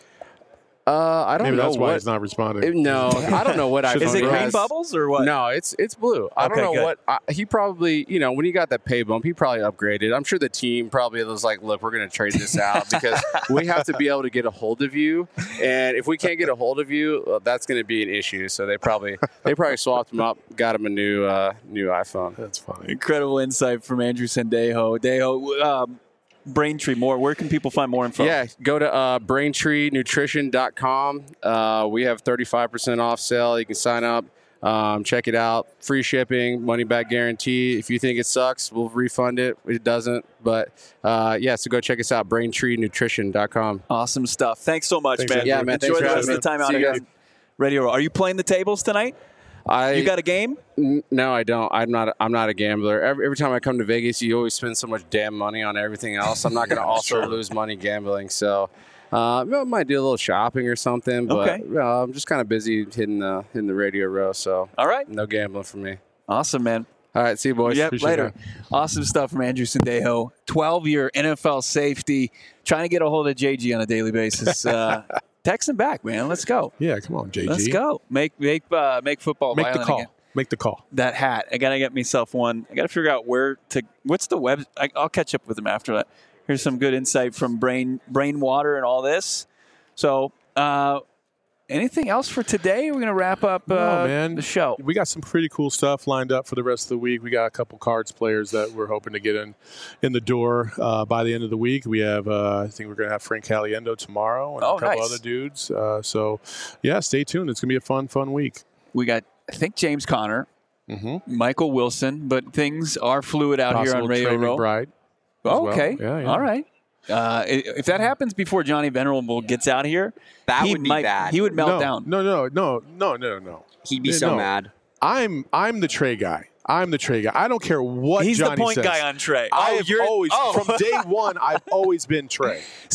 Speaker 8: uh, I don't
Speaker 2: Maybe
Speaker 8: know
Speaker 2: that's why
Speaker 8: what.
Speaker 2: he's not responding.
Speaker 8: No, I don't know what I.
Speaker 1: Is it green
Speaker 8: has.
Speaker 1: bubbles or what?
Speaker 8: No, it's it's blue. I
Speaker 1: Okay,
Speaker 8: don't know
Speaker 1: good.
Speaker 8: what I, he probably, you know, when he got that pay bump, he probably upgraded. I'm sure the team probably was like, "Look, we're going to trade this out because we have to be able to get a hold of you, and if we can't get a hold of you, well, that's going to be an issue." So they probably they probably swapped him up, got him a new uh, new iPhone.
Speaker 2: That's funny.
Speaker 1: Incredible insight from Andrew Sendejo. Dejo, um, Braintree, more. Where can people find more info?
Speaker 8: Yeah, go to uh, braintree nutrition dot com. Uh, we have thirty-five percent off sale. You can sign up, um, check it out. Free shipping, money back guarantee. If you think it sucks, we'll refund it. It doesn't. But uh, yeah, so go check us out, braintree nutrition dot com.
Speaker 1: Awesome stuff. Thanks so much,
Speaker 2: Thanks,
Speaker 1: man.
Speaker 2: Andrew.
Speaker 8: Yeah, man,
Speaker 1: Enjoy
Speaker 8: thanks
Speaker 1: the
Speaker 8: for
Speaker 1: rest
Speaker 8: having
Speaker 1: of the time
Speaker 8: me.
Speaker 1: out
Speaker 8: See you
Speaker 1: here. Ready to roll. Are you playing the tables tonight?
Speaker 8: I
Speaker 1: You got a game?
Speaker 8: N- No, I don't. I'm not. I'm not a gambler. Every, every time I come to Vegas, you always spend so much damn money on everything else. I'm not going to also lose money gambling. So, uh, I might do a little shopping or something. But
Speaker 1: Okay.
Speaker 8: uh, I'm just kind of busy hitting the hitting the radio row. So,
Speaker 1: All right.
Speaker 8: no gambling for me.
Speaker 1: Awesome, man.
Speaker 8: All right, see you boys.
Speaker 1: Yep,
Speaker 2: Appreciate
Speaker 1: later. Awesome stuff from Andrew Sendejo. twelve-year N F L safety. Trying to get a hold of J G on a daily basis. Uh, text him back, man. Let's go.
Speaker 2: Yeah, come on, J G.
Speaker 1: Let's go. Make make uh, make football
Speaker 2: Make the
Speaker 1: violent
Speaker 2: call.
Speaker 1: again.
Speaker 2: Make the call.
Speaker 1: That hat. I gotta get myself one. I gotta figure out where to. What's the web? I, I'll catch up with him after that. Here's some good insight from Brain Brain Water and all this. So, uh, anything else for today? We're gonna wrap up uh,
Speaker 2: No, man.
Speaker 1: the show.
Speaker 2: We got some pretty cool stuff lined up for the rest of the week. We got a couple cards players that we're hoping to get in in the door uh, by the end of the week. We have, uh, I think we're going to have Frank Caliendo tomorrow and
Speaker 1: Oh,
Speaker 2: a couple
Speaker 1: nice.
Speaker 2: other dudes. Uh, so, yeah, stay tuned. It's going to be a fun, fun week.
Speaker 1: We got, I think, James Conner,
Speaker 2: Mm-hmm.
Speaker 1: Michael Wilson, but things are fluid out here on Radio Row.
Speaker 2: McBride.
Speaker 1: Oh,
Speaker 2: well.
Speaker 1: okay.
Speaker 2: Yeah, yeah.
Speaker 1: All right. Uh, i- if that happens before Johnny Venerable gets out here,
Speaker 3: That
Speaker 1: he
Speaker 3: would be
Speaker 1: might,
Speaker 3: bad.
Speaker 1: He would melt
Speaker 2: no,
Speaker 1: down.
Speaker 2: No, no, no, no, no, no.
Speaker 3: He'd be
Speaker 2: Yeah,
Speaker 3: so
Speaker 2: no.
Speaker 3: mad.
Speaker 2: I'm I'm the Trey guy. I'm the Trey guy. I don't care what
Speaker 1: He's
Speaker 2: Johnny
Speaker 1: the point
Speaker 2: says.
Speaker 1: guy on Trey.
Speaker 2: I
Speaker 1: Oh,
Speaker 2: have
Speaker 1: you're-
Speaker 2: always,
Speaker 1: oh.
Speaker 2: from day one, I've always been Trey.
Speaker 1: So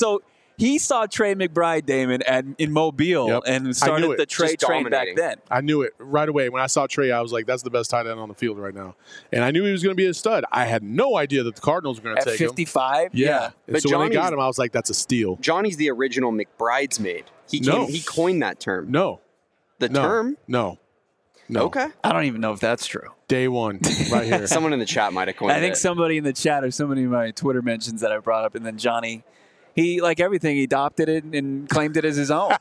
Speaker 1: He saw Trey McBride, Damon, at, in Mobile
Speaker 2: Yep.
Speaker 1: and started
Speaker 2: it.
Speaker 1: the Trey
Speaker 3: Just
Speaker 1: train back
Speaker 3: dominating.
Speaker 1: then.
Speaker 2: I knew it right away. When I saw Trey, I was like, that's the best tight end on the field right now. And I knew he was going to be a stud. I had no idea that the Cardinals were going to
Speaker 1: At
Speaker 2: take him.
Speaker 1: fifty-five?
Speaker 2: Yeah. And
Speaker 3: But
Speaker 2: so when they got
Speaker 3: Johnny's-
Speaker 2: him, I was like, that's a steal.
Speaker 3: Johnny's the original McBridesmaid. He came,
Speaker 2: No.
Speaker 3: he coined that term.
Speaker 2: No.
Speaker 3: The
Speaker 2: No.
Speaker 3: term?
Speaker 2: No. No.
Speaker 3: Okay.
Speaker 1: I don't even know if that's true.
Speaker 2: Day one, right here.
Speaker 3: Someone in the chat might have coined
Speaker 1: I think
Speaker 3: it.
Speaker 1: somebody in the chat or somebody in my Twitter mentions that I brought up, and then Johnny, he, like everything, he adopted it and claimed it as his own.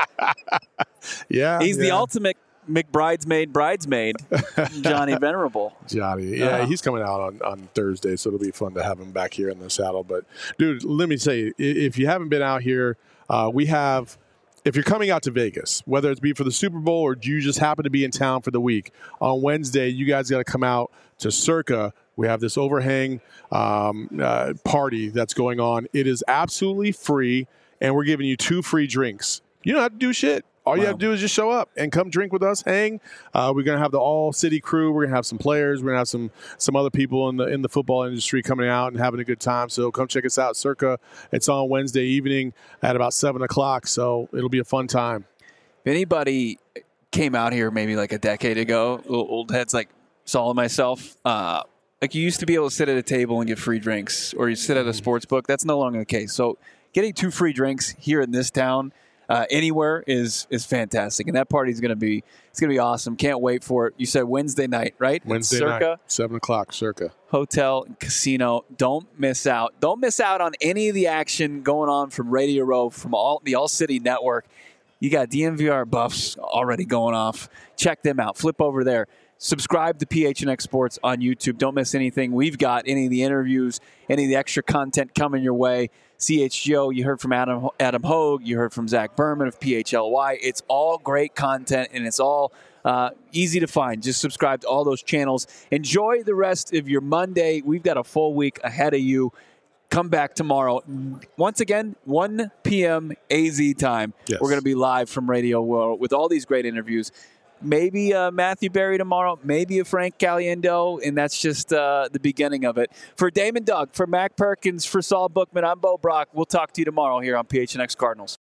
Speaker 2: yeah.
Speaker 1: He's the
Speaker 2: yeah.
Speaker 1: ultimate McBridesmaid bridesmaid, Johnny Venerable.
Speaker 2: Johnny. Yeah,
Speaker 1: Uh-huh.
Speaker 2: he's coming out on, on Thursday, so it'll be fun to have him back here in the saddle. But, dude, let me say, i- if you haven't been out here, uh, we have – if you're coming out to Vegas, whether it's be for the Super Bowl or you just happen to be in town for the week, on Wednesday, you guys got to come out to Circa. We have this overhang um, uh, party that's going on. It is absolutely free, and we're giving you two free drinks. You don't have to do shit. All you
Speaker 1: Wow.
Speaker 2: have to do is just show up and come drink with us, hang. Uh, we're gonna have the all city crew. We're gonna have some players. We're gonna have some some other people in the in the football industry coming out and having a good time. So come check us out, Circa. It's on Wednesday evening at about seven o'clock. So it'll be a fun time.
Speaker 1: If anybody came out here maybe like a decade ago, little old heads like Saul and myself, uh, like you used to be able to sit at a table and get free drinks, or you sit at a sports book. That's no longer the case. So getting two free drinks here in this town, uh, anywhere is is fantastic, and that party is going to be it's going to be awesome. Can't wait for it. You said Wednesday night, right? At
Speaker 2: Wednesday
Speaker 1: Circa
Speaker 2: night, seven o'clock, Circa.
Speaker 1: Hotel and Casino. Don't miss out. Don't miss out on any of the action going on from Radio Row, from all the All City Network. You got D M V R buffs already going off. Check them out. Flip over there. Subscribe to P H N X Sports on YouTube. Don't miss anything. We've got any of the interviews, any of the extra content coming your way. C H G O, you heard from Adam Adam Hogue. You heard from Zach Berman of P H L Y. It's all great content, and it's all uh, easy to find. Just subscribe to all those channels. Enjoy the rest of your Monday. We've got a full week ahead of you. Come back tomorrow. Once again, one p.m. A Z time.
Speaker 2: Yes.
Speaker 1: We're going to be live from Radio World with all these great interviews. Maybe uh, Matthew Berry tomorrow, maybe a Frank Caliendo, and that's just uh, the beginning of it. For Damon Doug, for Mac Perkins, for Saul Bookman, I'm Bo Brock. We'll talk to you tomorrow here on P H N X Cardinals.